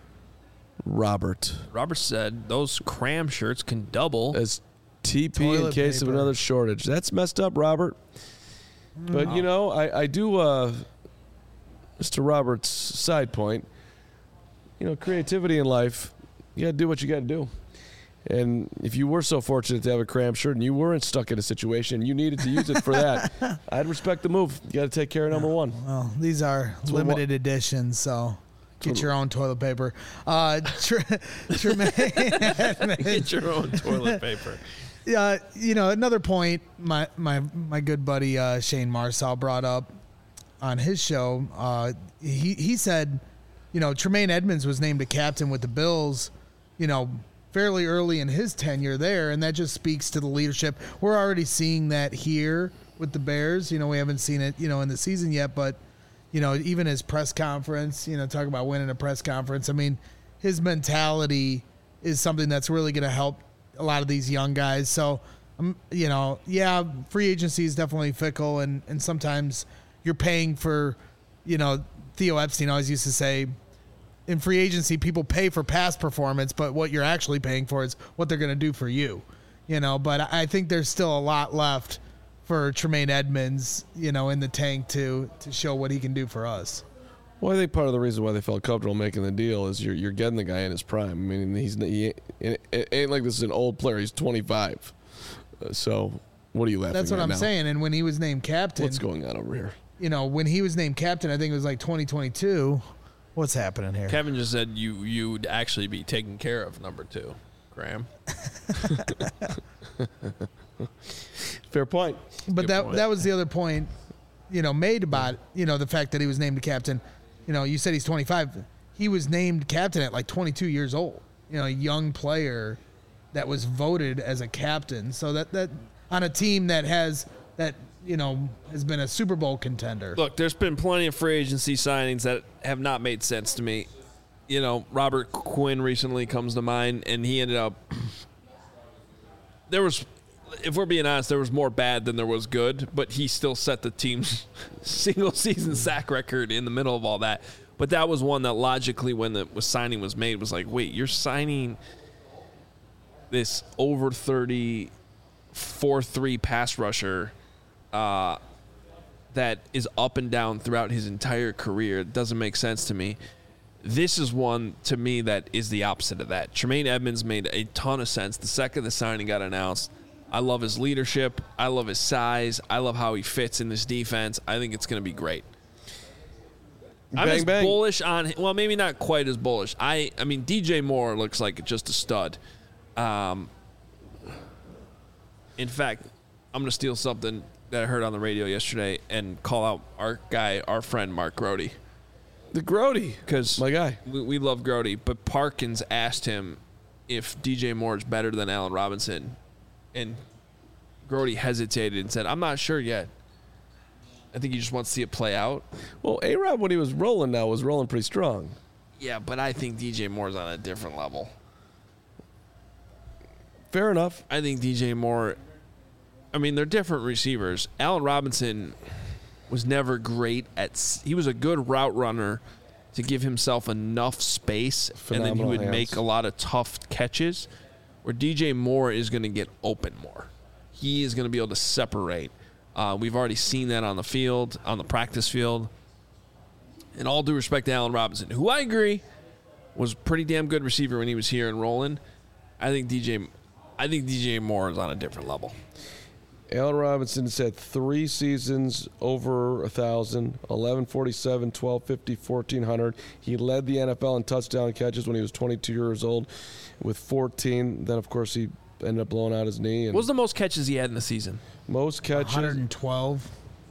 Robert. Robert said those cram shirts can double as T P Toilet in case paper. of another shortage. That's messed up, Robert. But, Oh. you know, I, I do, uh, Mister Robert's side point, you know, creativity in life, you got to do what you got to do. And if you were so fortunate to have a cram shirt and you weren't stuck in a situation, you needed to use it for that, I'd respect the move. You got to take care of number one. Well, these are what- limited editions, so get your own toilet paper. Uh, Tre- Tremaine Get your own toilet paper. Uh, you know, another point my my my good buddy uh, Shane Marsal brought up on his show. Uh, he he said, you know, Tremaine Edmonds was named a captain with the Bills, you know, fairly early in his tenure there, and that just speaks to the leadership. We're already seeing that here with the Bears. You know, we haven't seen it, you know, in the season yet, but you know, even his press conference, you know, talk about winning a press conference. I mean, his mentality is something that's really going to help a lot of these young guys. So, um, you know, yeah, free agency is definitely fickle, and, and sometimes you're paying for, you know, Theo Epstein always used to say, in free agency, people pay for past performance, but what you're actually paying for is what they're going to do for you, you know. But I think there's still a lot left for Tremaine Edmonds, you know, in the tank to to show what he can do for us. Well, I think part of the reason why they felt comfortable making the deal is you're you're getting the guy in his prime. I mean, he's he, it ain't like this is an old player. He's twenty-five. Uh, so what are you laughing That's what at I'm now? saying. And when he was named captain, What's going on over here? you know, when he was named captain, I think it was like twenty twenty-two. What's happening here? Kevin just said you you'd actually be taken care of, number two, Graham. Fair point. But Good that point. that was the other point, you know, made about, you know, the fact that he was named captain. You know, you said he's twenty-five. He was named captain at like twenty-two years old. You know, a young player that was voted as a captain. So that that on a team that has that, you know, has been a Super Bowl contender. Look, there's been plenty of free agency signings that have not made sense to me. You know, Robert Quinn recently comes to mind, and he ended up. There was, if we're being honest, there was more bad than there was good, but he still set the team's single season sack record in the middle of all that. But that was one that logically, when the was signing was made, was like, wait, you're signing this over thirty four three pass rusher uh, that is up and down throughout his entire career. It doesn't make sense to me. This is one, to me, that is the opposite of that. Tremaine Edmonds made a ton of sense the second the signing got announced. I love his leadership. I love his size. I love how he fits in this defense. I think it's going to be great. I'm Bang, as bang. bullish on – well, maybe not quite as bullish. I I mean, D J Moore looks like just a stud. Um, in fact, I'm going to steal something that I heard on the radio yesterday and call out our guy, our friend Mark Grody. The Grody. Because My guy. we, we love Grody, but Parkins asked him if D J Moore is better than Allen Robinson, and Grody hesitated and said, I'm not sure yet. I think he just wants to see it play out. Well, A-Rob, when he was rolling now, was rolling pretty strong. Yeah, but I think D J Moore's on a different level. Fair enough. I think D J Moore, I mean, they're different receivers. Allen Robinson was never great at, he was a good route runner to give himself enough space, Phenomenal and then he would hands. make a lot of tough catches, where D J Moore is going to get open more. He is going to be able to separate. Uh, we've already seen that on the field, on the practice field. And all due respect to Allen Robinson, who I agree was a pretty damn good receiver when he was here and rolling. I think D J, I think D J Moore is on a different level. Allen Robinson has had three seasons over one thousand, eleven forty-seven, twelve fifty, fourteen hundred. He led the N F L in touchdown catches when he was twenty-two years old with fourteen. Then, of course, he ended up blowing out his knee. And What was the most catches he had in the season? most catches? one hundred twelve.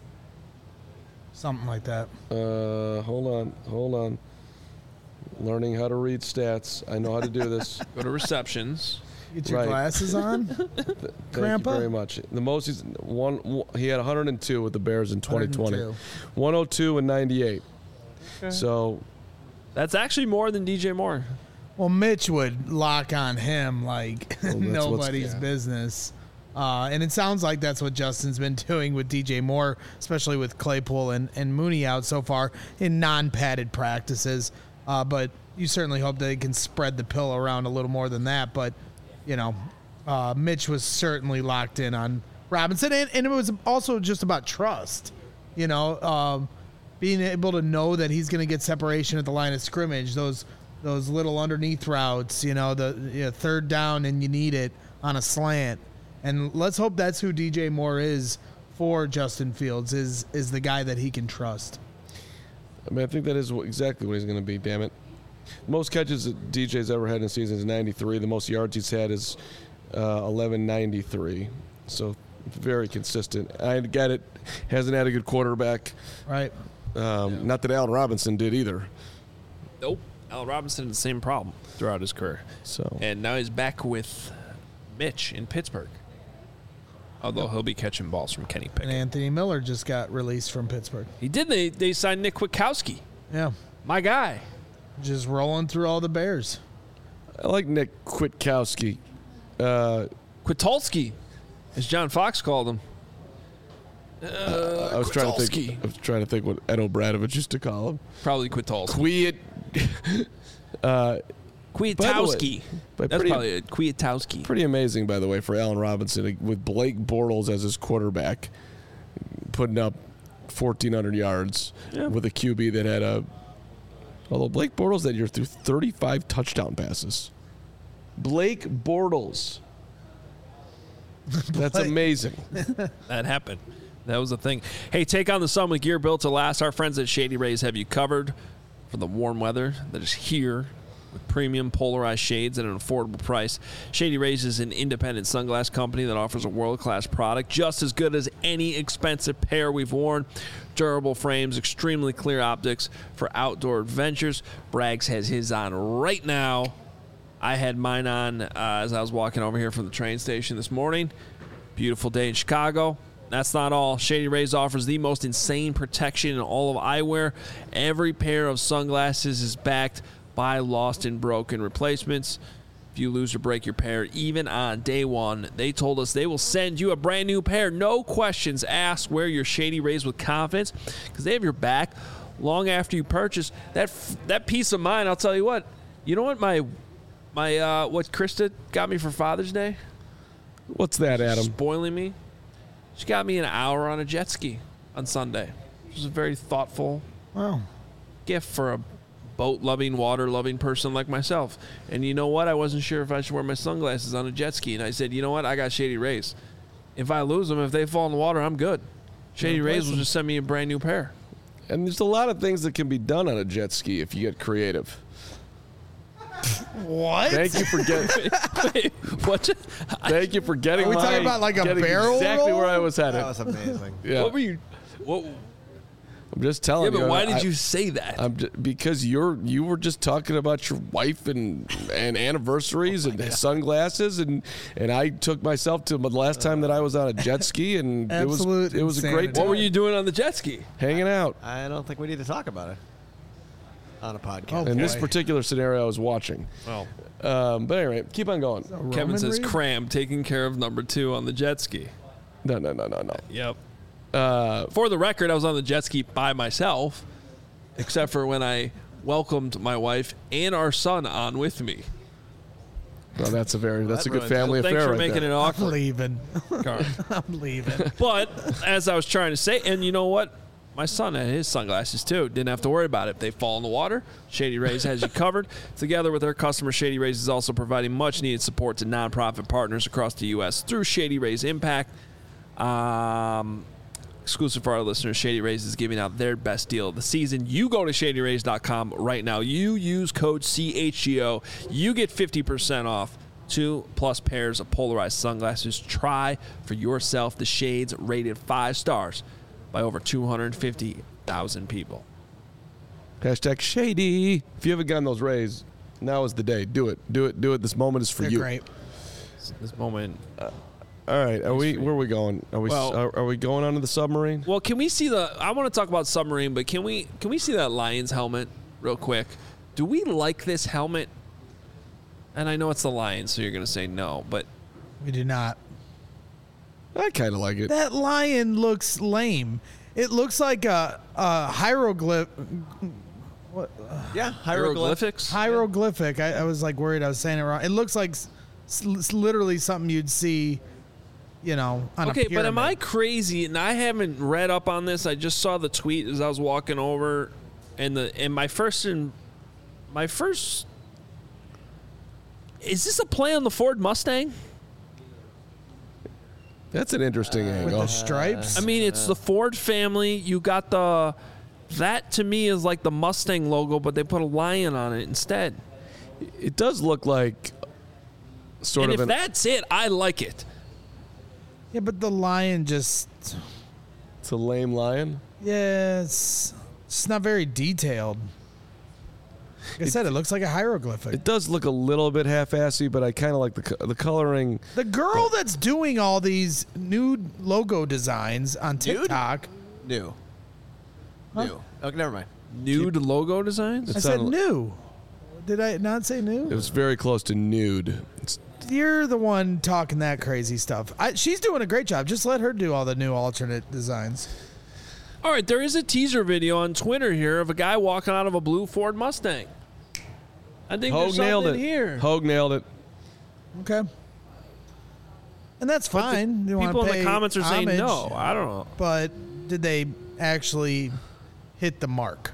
Something like that. Uh, hold on, hold on. Learning how to read stats. I know how to do this. Go to receptions. Get your Right. glasses on. Thank Grandpa? you very much. The most he's one. one- He had one hundred two with the Bears in twenty twenty. one hundred one oh two and ninety-eight. So That's actually more than D J Moore. Well, Mitch would lock on him like Well, that's what's- nobody's yeah. business. Uh, and it sounds like that's what Justin's been doing with D J Moore, especially with Claypool and, and Mooney out so far in non-padded practices. Uh, but you certainly hope they can spread the pill around a little more than that. But, you know, uh, Mitch was certainly locked in on Robinson. And, and it was also just about trust, you know, um, being able to know that he's going to get separation at the line of scrimmage, those those little underneath routes, you know, the you know, third down and you need it on a slant. And let's hope that's who D J Moore is for Justin Fields, is is the guy that he can trust. I mean, I think that is wh- exactly what he's going to be. Damn it! Most catches that D J's ever had in a season is ninety-three. The most yards he's had is uh, eleven ninety-three. So very consistent. I get it. Hasn't had a good quarterback. Right. Um, Not that Allen Robinson did either. Nope. Allen Robinson had the same problem throughout his career. So And now he's back with Mitch in Pittsburgh. Although he'll be catching balls from Kenny And Pickett. Anthony Miller just got released from Pittsburgh. He did. They, they signed Nick Kwiatkowski. Yeah. My guy. Just rolling through all the Bears. I like Nick Kwiatkowski. Uh, Kwitulski, as John Fox called him. I was trying to Kwiatkowski. think. I was trying to think what Ed O'Bradovich used to call him. Probably Kwitulski. Kwiat. uh, Kwiatkowski. but That's pretty- probably it. Kwiatkowski. Pretty amazing, by the way, for Allen Robinson with Blake Bortles as his quarterback, putting up fourteen hundred yards Yeah. with a Q B that had a. Although Blake Bortles that year threw thirty-five touchdown passes. Blake Bortles. That's Blake- amazing. That happened. That was the thing. Hey, take on the sun with gear built to last. Our friends at Shady Rays have you covered for the warm weather that is here with premium polarized shades at an affordable price. Shady Rays is an independent sunglass company that offers a world-class product just as good as any expensive pair we've worn. Durable frames, extremely clear optics for outdoor adventures. Braggs has his on right now. I had mine on uh, as I was walking over here from the train station this morning. Beautiful day in Chicago. That's not all. Shady Rays offers the most insane protection in all of eyewear. Every pair of sunglasses is backed by lost and broken replacements. If you lose or break your pair, even on day one, they told us they will send you a brand new pair. No questions asked. Wear your Shady Rays with confidence because they have your back long after you purchase. That that peace of mind, I'll tell you what. You know what my my uh, what Krista got me for Father's Day? What's that, Adam? Spoiling me. She got me an hour on a jet ski on Sunday. It was a very thoughtful Wow. gift for a boat-loving, water-loving person like myself. And you know what? I wasn't sure if I should wear my sunglasses on a jet ski. And I said, you know what? I got Shady Rays. if I lose them, if they fall in the water, I'm good. Shady replace Rays will them. just send me a brand new pair. And there's a lot of things that can be done on a jet ski if you get creative. What? Thank you for getting. Wait, what? you- Thank you for getting. Are we my- talking about like a getting barrel Exactly roll? where I was headed. That was amazing. yeah. What were you? What? I'm just telling Yeah, you. but why did I- you say that? I'm j- because you're you were just talking about your wife and and anniversaries and sunglasses and and I took myself to the last time that I was on a jet ski and it was Absolute it was a great insanity. time what were you doing on the jet ski? hanging out. I don't think we need to talk about it on a podcast. Oh, In this boy. particular scenario, I was watching. Oh, Um, but anyway, keep on going. Kevin Roman says Reigns? cram taking care of number two on the jet ski. No, no, no, no, no. Yep. Uh, For the record, I was on the jet ski by myself, except for when I welcomed my wife and our son on with me. well, that's a very that's a that good ruins family Thanks affair for right making there. it I'm awkward. leaving. Carl. I'm leaving. But as I was trying to say, and you know what? My son had his sunglasses too. Didn't have to worry about it. If they fall in the water, Shady Rays has you covered. Together with their customers, Shady Rays is also providing much needed support to nonprofit partners across the U S through Shady Rays Impact. Um, exclusive for our listeners, Shady Rays is giving out their best deal of the season. You go to shady rays dot com right now. You use code C H G O. You get fifty percent off two plus pairs of polarized sunglasses. Try for yourself the shades rated five stars by over two hundred fifty thousand people. Hashtag shady. If you haven't gotten those rays, now is the day. Do it. Do it. Do it. This moment is for They're you. great. This moment. All right. Are we? Where are we going? Are we? Well- are, are we going onto the submarine? Well, can we see the? I want to talk about submarine, but can we? Can we see that Lions helmet real quick? Do we like this helmet? And I know it's the Lions, so you're going to say no, but We do not. I kind of like it. That lion looks lame. It looks like a, a hieroglyph. Yeah, hieroglyph. hieroglyphics. Hieroglyphic. I, I was like worried I was saying it wrong. It looks like s- s- literally something you'd see, you know, on Okay, a but am I pyramid. crazy? And I haven't read up on this. I just saw the tweet as I was walking over, and the and my first and my first is this a play on the Ford Mustang? That's an interesting with angle. the stripes? I mean, it's the Ford family. You got the that to me is like the Mustang logo, but they put a lion on it instead. It does look like sort and of if an. that's it, I like it. yeah, but the lion just, It's a lame lion. yeah, it's, it's not very detailed. Like I said, it looks like a hieroglyphic. It does look a little bit half-assy, but I kind of like the co- the coloring. The girl that's doing all these nude logo designs on TikTok, New. New. Okay, never mind. Nude logo designs. I It said sounded- new. Did I not say It new? was very close to nude. It's, You're the one talking that crazy stuff. I, she's doing a great job. Just let her do all the new alternate designs. All right, there is a teaser video on Twitter here of a guy walking out of a blue Ford Mustang. I think Hogue there's nailed something it. here. Hogue nailed it. Okay. And that's But the fine. You wanna people in pay the comments are saying homage, no. I don't know. But did they actually hit the mark?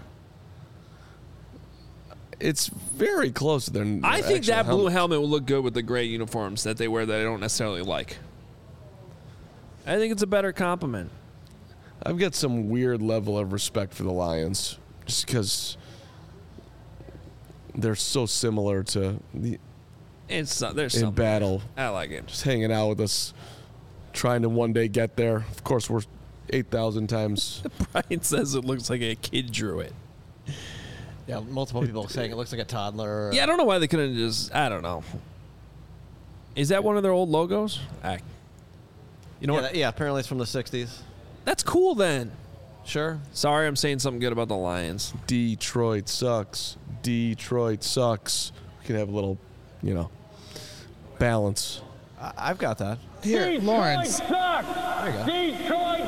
It's very close to their. their I think actual that blue helmet. helmet will look good with the gray uniforms that they wear that I don't necessarily like. I think it's a better compliment. I've got some weird level of respect for the Lions, just because they're so similar to the It's uh, there's in something. battle, I like it. just hanging out with us, trying to one day get there. Of course, we're eight thousand times. Brian says it looks like a kid drew it. Yeah, multiple people saying it looks like a toddler. Yeah, I don't know why they couldn't just. I don't know. Is that one of their old logos? Ah, you know Yeah, what? that- yeah, apparently it's from the sixties. That's cool then. Sure. Sorry, I'm saying something good about the Lions. Detroit sucks. Detroit sucks. We can have a little, you know, balance. I- I've got that. Here, Lawrence. There you go.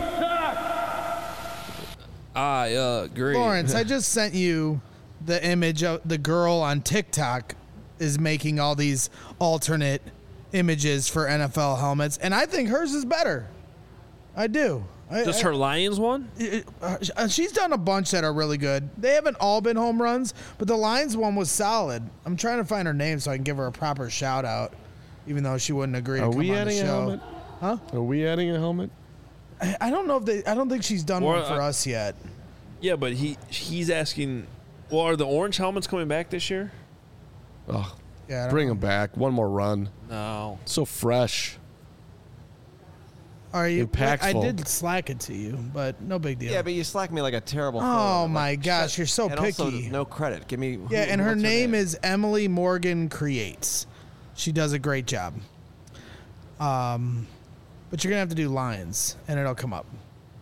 I agree. Lawrence, I just sent you the image of the girl on TikTok is making all these alternate images for N F L helmets, and I think hers is better. I do. I, Just I- her Lions one? it- uh, she's done a bunch that are really good. They haven't all been home runs, but the Lions one was solid. I'm trying to find her name so I can give her a proper shout out, even though she wouldn't agree Are to come we on the adding a show. helmet? Huh? Are we adding a helmet? I, I don't know if they. I don't think she's done Or, one for uh, us yet. Yeah, but he he's asking. Well, are the orange helmets coming back this year? Oh, Yeah, I don't bring know. them back. One more run. No. So fresh. Are you? Impactful. I did slack it to you, but no big deal. Yeah, but you slack me like a terrible. photo. Oh, Like, my gosh, shut- you're so and also, picky. no credit. Give me. Who, Yeah, and her what's name is Emily Morgan Creates. She does a great job. Um, but you're gonna have to do Lions, and it'll come up.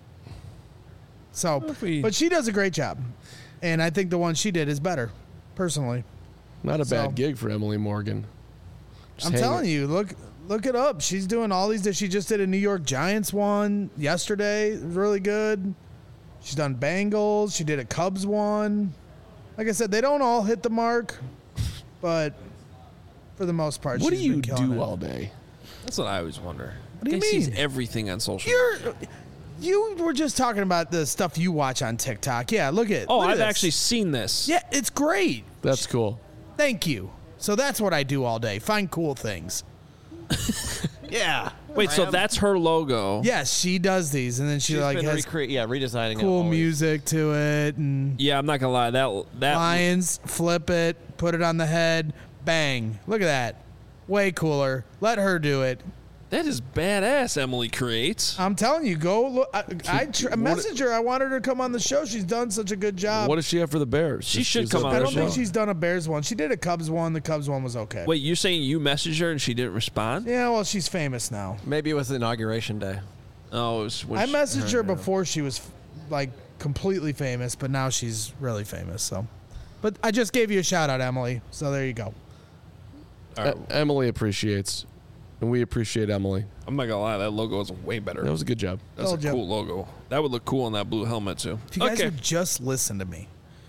So, if we- but she does a great job, and I think the one she did is better, personally. Not a So- bad gig for Emily Morgan. Just I'm hang telling it- you, look look it up. She's doing all these. She just did a New York Giants one yesterday. It was really good. She's done Bengals. She did a Cubs one. Like I said, they don't all hit the mark, but for the most part, What do she's you been killing do it. all day? That's what I always wonder. What do you Guy sees mean? everything on social. You're you were just talking about the stuff you watch on TikTok. Yeah, look at. oh, look at I've this. actually seen this. Yeah, it's great. That's cool. Thank you. So that's what I do all day. Find cool things. Yeah. Wait, so that's her logo? Yes, she does these, and then she She's like been has recre- yeah, redesigning it. cool always. music to it, and Yeah, I'm not gonna lie. That that lions, flip it, put it on the head, bang. Look at that. Way cooler. Let her do it. that is badass. Emily creates. I'm telling you, go look. I, I tr- messaged her. I want her to come on the show. She's done such a good job. What does she have for the Bears? She Just- should she's come a on I the don't Bears think show. she's done a Bears one. She did a Cubs one. The Cubs one was okay. Wait, you're saying you messaged her and she didn't respond? Yeah, well, she's famous now. Maybe it was inauguration day. Oh, it was when I she- messaged her before she was like completely famous, but now she's really famous. So, but I just gave you a shout out, Emily. So there you go. All right, E- Emily appreciates, and we appreciate Emily. I'm not gonna lie. That logo is way better. That was a good job. That's a Told ya. cool logo. That would look cool on that blue helmet too. If you guys okay. would just listen to me.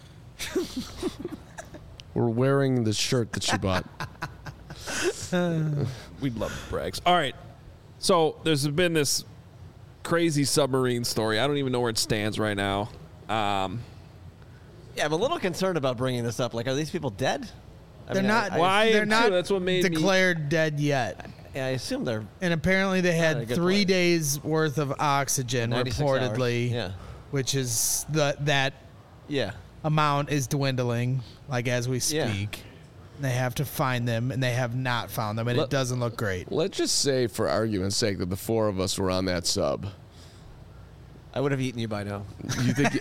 We're wearing the shirt that she bought. We'd love brags. All right. So there's been this crazy submarine story. I don't even know where it stands right now. Um, Yeah, I'm a little concerned about bringing this up. Like, are these people dead? I They're mean, I- not. I, Why? They're am not too. That's what made me- declared dead yet. I assume they're And apparently they Not in a had good three place. days worth of oxygen ninety-six reportedly, hours. Yeah. which is the that Yeah. amount is dwindling like as we speak. Yeah. They have to find them, and they have not found them, and Let- it doesn't look great. Let's just say, for argument's sake, that the four of us were on that sub. I would have eaten you by now. You think?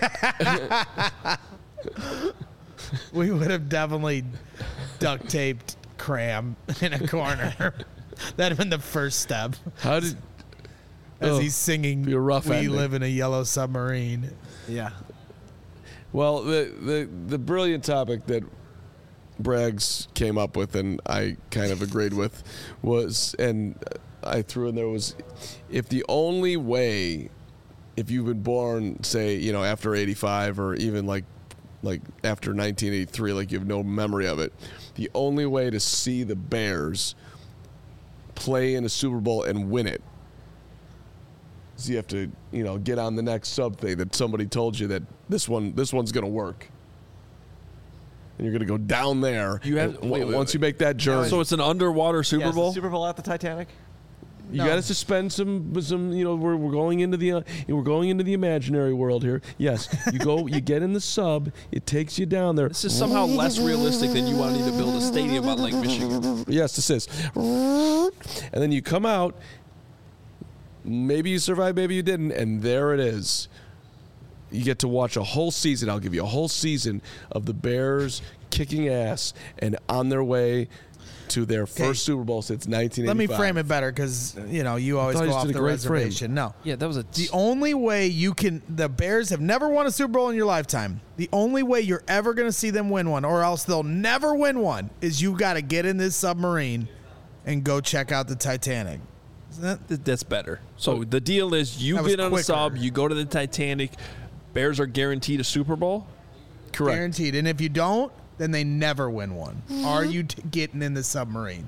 We would have definitely duct taped Cram in a corner. That'd have been the first step. how did? As Oh, he's singing, be a rough "We ending. live in a yellow submarine." Yeah. Well, the the the brilliant topic that Braggs came up with, and I kind of agreed with, was, and I threw in there was, if the only way, if you've been born, say, you know, after eighty-five or even like, like after nineteen eighty-three, like you have no memory of it, the only way to see the Bears play in a Super Bowl and win it is you have to, you know, get on the next sub thing that somebody told you that this one, this one's going to work. And you're going to go down there. You have- and w- wait, wait, once wait. you make that journey. So it's an underwater Super Yeah, is the Bowl. Super Bowl at the Titanic? You No. got to suspend some, some. You know, we're, we're going into the, uh, we're going into the imaginary world here. Yes, you go, you get in the sub. It takes you down there. This is somehow less realistic than you wanting to build a stadium on Lake Michigan. Yes, this is. And then you come out. Maybe you survived, maybe you didn't, and there it is. You get to watch a whole season. I'll give you a whole season of the Bears kicking ass and on their way to their first Super Bowl since nineteen Let me eighty-five. frame it better, because you know you always thought go you just off did a the great frame. reservation. No, Yeah, that was a. the only way you can. The Bears have never won a Super Bowl in your lifetime. The only way you're ever going to see them win one, or else they'll never win one, is you got to get in this submarine and go check out the Titanic. Isn't that? Th- That's better. So the deal is you That was get on quicker. a sub, you go to the Titanic. Bears are guaranteed a Super Bowl. Correct. Guaranteed. And if you don't, then they never win one. Are you t- getting in the submarine?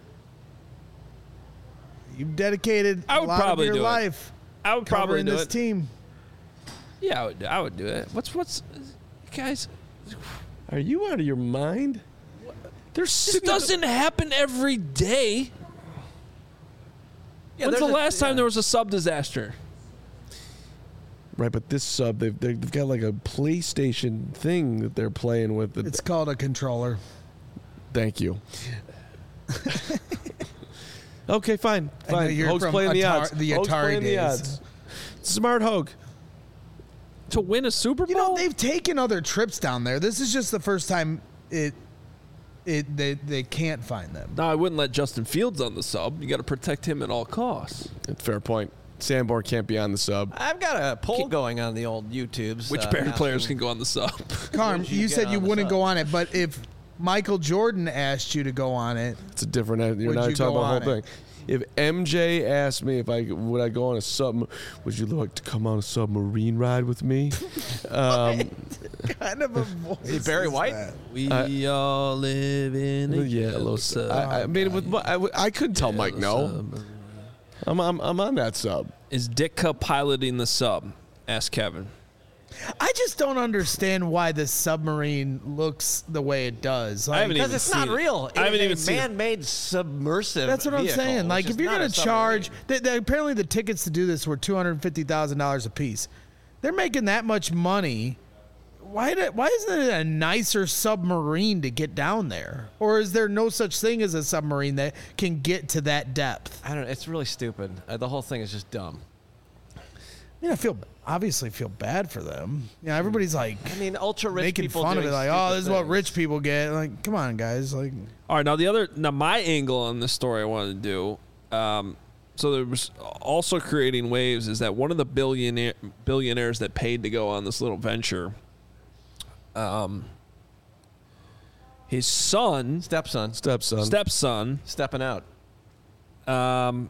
You've dedicated I a would lot probably of do your it. life I would probably covering do this it. team. Yeah, I would, I would do it. What's what's guys? Are you out of your mind? There's This doesn't happen every day. Yeah, When's the there's a- last time yeah. there was a sub disaster? Right, but this sub, they've, they've got like a PlayStation thing that they're playing with. That, It's called a controller. thank you. Okay, fine, I know fine. you're Hoag's from playing the Atari- odds. the Hoag's Atari playing the days. odds. Smart Hoag. To win a Super Bowl? You know, they've taken other trips down there. This is just the first time it it they they can't find them. No, I wouldn't let Justin Fields on the sub. You got to protect him at all costs. Fair point. Sanborn can't be on the sub. I've got a poll going on the old YouTubes. Which uh, Bear players asking- can go on the sub? Carm, Would you you get said you on the wouldn't sub? go on it, but if Michael Jordan asked you to go on it, It's a different. You're Would not you talking go about the whole on thing. If M J asked me if I would I go on a sub, would you like to come on a submarine ride with me? um, kind of a voice. Is he Barry is White? that? We Uh, all live in a yeah, a little. sub. I, I mean, with I, I couldn't tell Mike no. I'm, I'm I'm on that sub. Is Ditka piloting the sub? Ask Kevin. I just don't understand why the submarine looks the way it does. Like, I haven't Because even it's not seen it. real. It I haven't is even a seen it. man-made submersive. That's what I'm vehicle. saying. It's Like, just if you're not going a to charge, submarine. th- th- apparently the tickets to do this were two hundred fifty thousand dollars a piece. They're making that much money. Why? Do, why isn't it a nicer submarine to get down there? Or is there no such thing as a submarine that can get to that depth? I don't know. It's really stupid. Uh, the whole thing is just dumb. I mean, I feel obviously feel bad for them. You know, everybody's like I mean, ultra rich making people fun of doing it, like, stupid oh, this is what things. rich people get. Like, come on, guys. Like, All right, now the other, now my angle on this story I wanted to do. Um, so there was also creating waves is that one of the billionaire billionaires that paid to go on this little venture. Um, his son, Stepson. Stepson. stepson, Stepping out. um,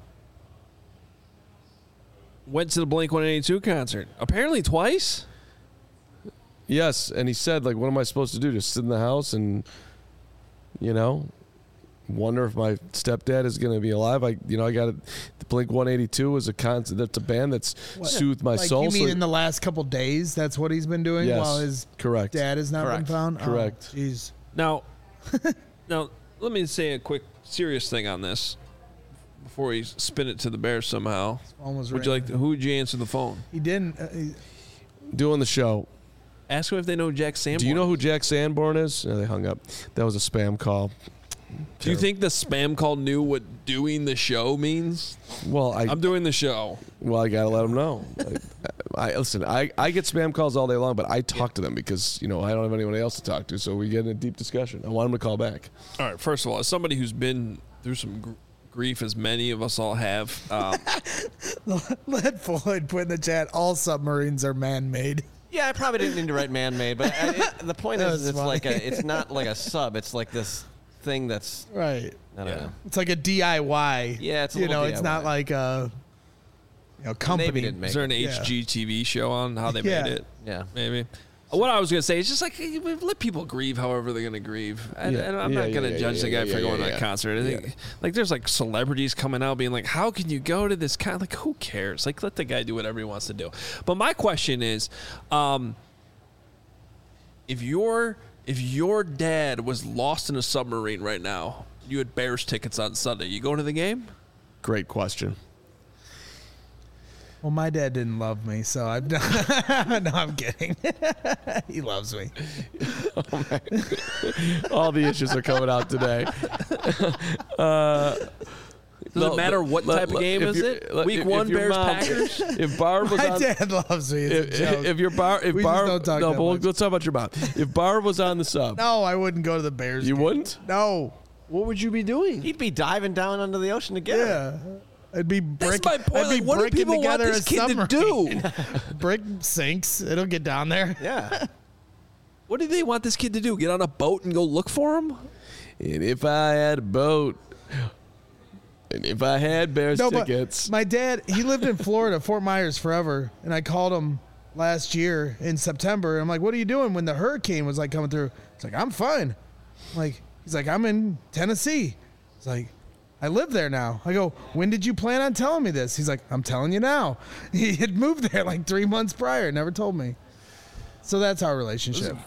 went to the Blink one eighty-two concert. Apparently twice. Yes, and he said, like, what am I supposed to do? Just sit in the house and, you know, wonder if my stepdad is going to be alive. I, you know, I got it. The Blink one eighty-two is a concert. That's a band that's soothed my like soul. you mean so- in the last couple days? That's what he's been doing Yes, while his correct. dad has not Correct. been found. Correct. Oh, jeez. Now, now let me say a quick serious thing on this before we spin it to the Bears somehow. Phone was Would you like? ringing. To, who would you answer the phone? He didn't. Uh, he, Doing the show. Ask them if they know Jack Sanborn. Do you know who Jack Sanborn is? No, they hung up. That was a spam call. Do you think the spam call knew what doing the show means? Well, I I'm doing the show. well, I gotta let them know. I, I listen. I, I get spam calls all day long, but I talk to them because you know I don't have anyone else to talk to, so we get in a deep discussion. I want them to call back. All right. First of all, as somebody who's been through some gr- grief, as many of us all have, um, let Floyd put in the chat. All submarines are man-made. Yeah, I probably didn't need to write man-made, but I, it, the point That is, was it's funny. like a, it's not like a sub. It's like this thing that's Right. I don't know. It's like a D I Y. Yeah, it's a you little know, it's not D I Y. like a you know company. Navy didn't make is there an it. Yeah. H G T V show on how they Yeah. made it? Yeah. Maybe. What I was gonna say is just like hey, let people grieve however they're gonna grieve. I, Yeah. and I'm Yeah, not gonna yeah, judge yeah, the guy yeah, for yeah, going to yeah, that yeah. concert. I think Yeah. like there's like celebrities coming out being like, how can you go to this kind? Like who cares? Like let the guy do whatever he wants to do. But my question is, um, if your if your dad was lost in a submarine right now, you had Bears tickets on Sunday, you going to the game? Great question. Well, my dad didn't love me, so I'm no, I'm kidding. He loves me. All the issues are coming out today. Does it matter what type of game if is you're- it? let- Week if- one, if your Bears mom- Packers. If Barb was My on, dad loves me. It's if, a joke. if your bar, if We just Barb, don't talk no, that but we'll- much. let's talk about your mom. If Barb was on the sub, no, I wouldn't go to the Bears. you game. wouldn't. No. What would you be doing? He'd be diving down under the ocean to get her. Yeah. I'd be brick, That's my point. I'd be Like, what do bricking people want together this a kid to submarine. do? Brick sinks. It'll get down there. Yeah. What do they want this kid to do? Get on a boat and go look for him? And if I had a boat, and if I had Bears No, but tickets, my dad, he lived in Florida, Fort Myers forever, and I called him last year in September. And I'm like, "What are you doing?" When the hurricane was like coming through, it's like, "I'm fine." I'm like, he's like, "I'm in Tennessee." It's like, "I live there now." I go, "When did you plan on telling me this?" He's like, "I'm telling you now." He had moved there like three months prior, never told me. So that's our relationship.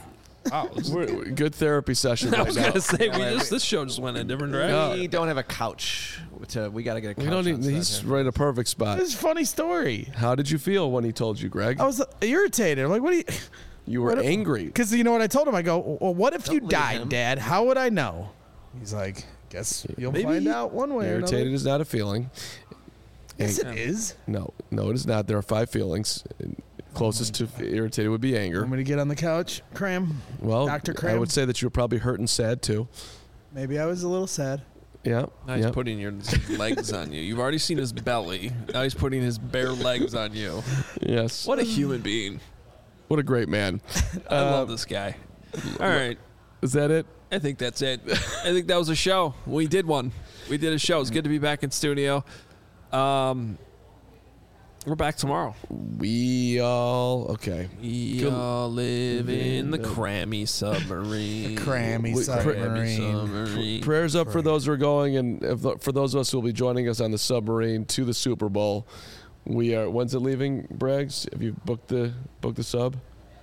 Wow. We're, we're- good therapy session I right was now. gonna say we just this show just went in a different direction. We don't have a couch. To, we got to get a couch. We don't need. outside He's here. right in a perfect spot. This is a funny story. How did you feel when he told you, Greg? I was irritated. I'm like, what do you? You were What if- angry. Because you know what I told him? I go, well, what if you leave died, him. Dad? How would I know? He's like, guess you'll Maybe find he- out one way or Irritated another. is not a feeling. Yes, it Ang- is. No, no, it is not. There are five feelings. Closest to irritated would be anger. Want me to get on the couch, Cram? Well, Doctor I Cram? would say that you were probably hurt and sad too. Maybe I was a little sad. Yeah. Now he's yeah. putting your his legs on you. You've already seen his belly. Now he's putting his bare legs on you. Yes. What a human being. What a great man. I love this guy. All right. Is that it? I think that's it. I think that was a show. We did one. We did a show. It's good to be back in studio. Um, we're back tomorrow. We all okay. We Good- all live in the crammy submarine. Crammy We- submarine. submarine. Prayers up for those who are going, and if, for those of us who will be joining us on the submarine to the Super Bowl. We are. When's it leaving, Braggs? Have you booked the booked the sub?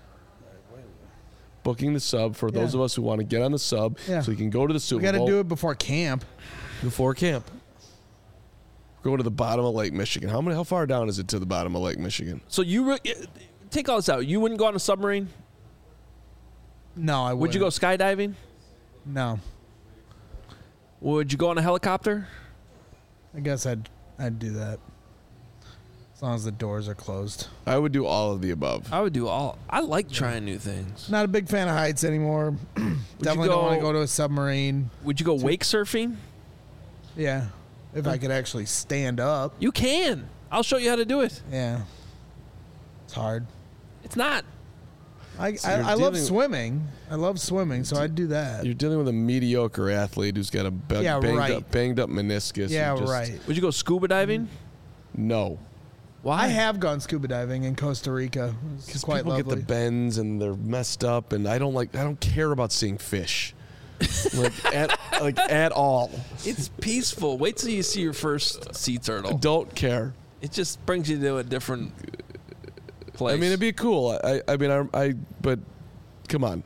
Booking the sub for those Yeah. of us who want to get on the sub, Yeah. so we can go to the Super We got to Bowl do it before camp. before camp. Go to the bottom of Lake Michigan. How many? How far down is it to the bottom of Lake Michigan? So you re- take all this out. You wouldn't go on a submarine? No, I Would you go wouldn't. skydiving? No, Would you go on a helicopter? I guess I'd I'd do that as long as the doors are closed. I would do all of the above. I would do all. I like trying new things. Not a big fan of heights anymore. Definitely don't want to go- go to a submarine. Would you go wake surfing? Yeah, if I could actually stand up. You can. I'll show you how to do it. Yeah, it's hard. It's not. I So I, you're I love dealing- swimming. I love swimming, so I'd do that. You're dealing with a mediocre athlete who's got a ba- Yeah, banged right. up, banged up meniscus. Yeah, and just- right. Would you go scuba diving? No, Why? I have gone scuba diving in Costa Rica. It's because quite people lovely. get the bends and they're messed up, and I don't like. I don't care about seeing fish, like at like at all. It's peaceful. Wait till you see your first sea turtle. Don't care. It just brings you to a different place. I mean, it'd be cool. I, I mean, I, I, but come on.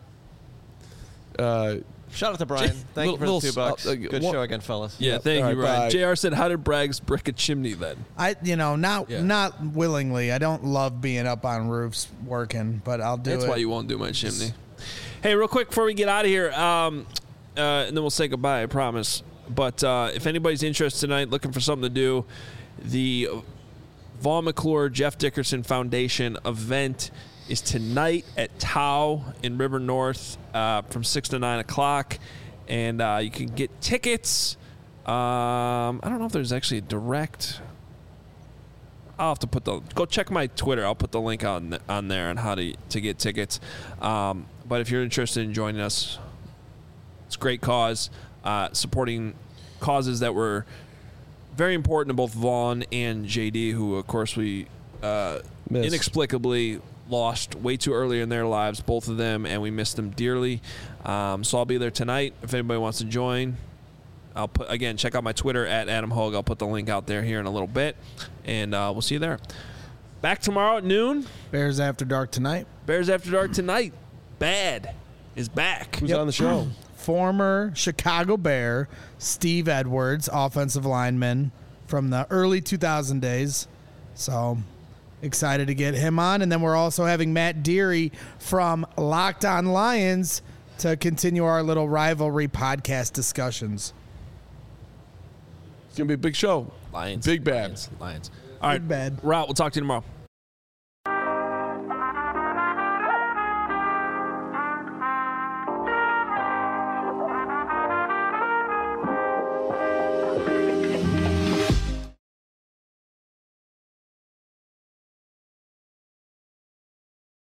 Uh, Shout out to Brian. Thank you for little- the two bucks. uh, uh, Good one- show again, fellas. yeah, thank All you, right, Ryan. bye. J R said, "How did Braggs brick a chimney then?" I, you know, not Yeah. not willingly. I don't love being up on roofs working, but I'll do That's it. why you won't do my chimney. Hey, real quick before we get out of here, um, uh, and then we'll say goodbye, I promise. But uh, if anybody's interested tonight, looking for something to do, the Vaughn McClure Jeff Dickerson Foundation event is tonight at Tau in River North uh, from six to nine o'clock. And uh, you can get tickets. Um, I don't know if there's actually a direct. I'll have to put the go check my Twitter. I'll put the link on on there on how to to get tickets. Um, but if you're interested in joining us, it's a great cause, uh, supporting causes that were very important to both Vaughn and J D, who of course we uh, Miss. inexplicably lost way too early in their lives, both of them, and we miss them dearly. Um, so I'll be there tonight. If anybody wants to join, I'll put again check out my Twitter at Adam Hogue. I'll put the link out there here in a little bit, and uh, we'll see you there. Back tomorrow at noon. Bears After Dark tonight. Bears After Dark tonight. Bad is back. who's Yep. on the show? Former Chicago Bear Steve Edwards, offensive lineman from the early two thousand days. So excited to get him on. And then we're also having Matt Deary from Locked On Lions to continue our little rivalry podcast discussions. It's gonna be a big show. Lions. Big bad. Lions. Lions. All right. Big bad. Route. We'll talk to you tomorrow.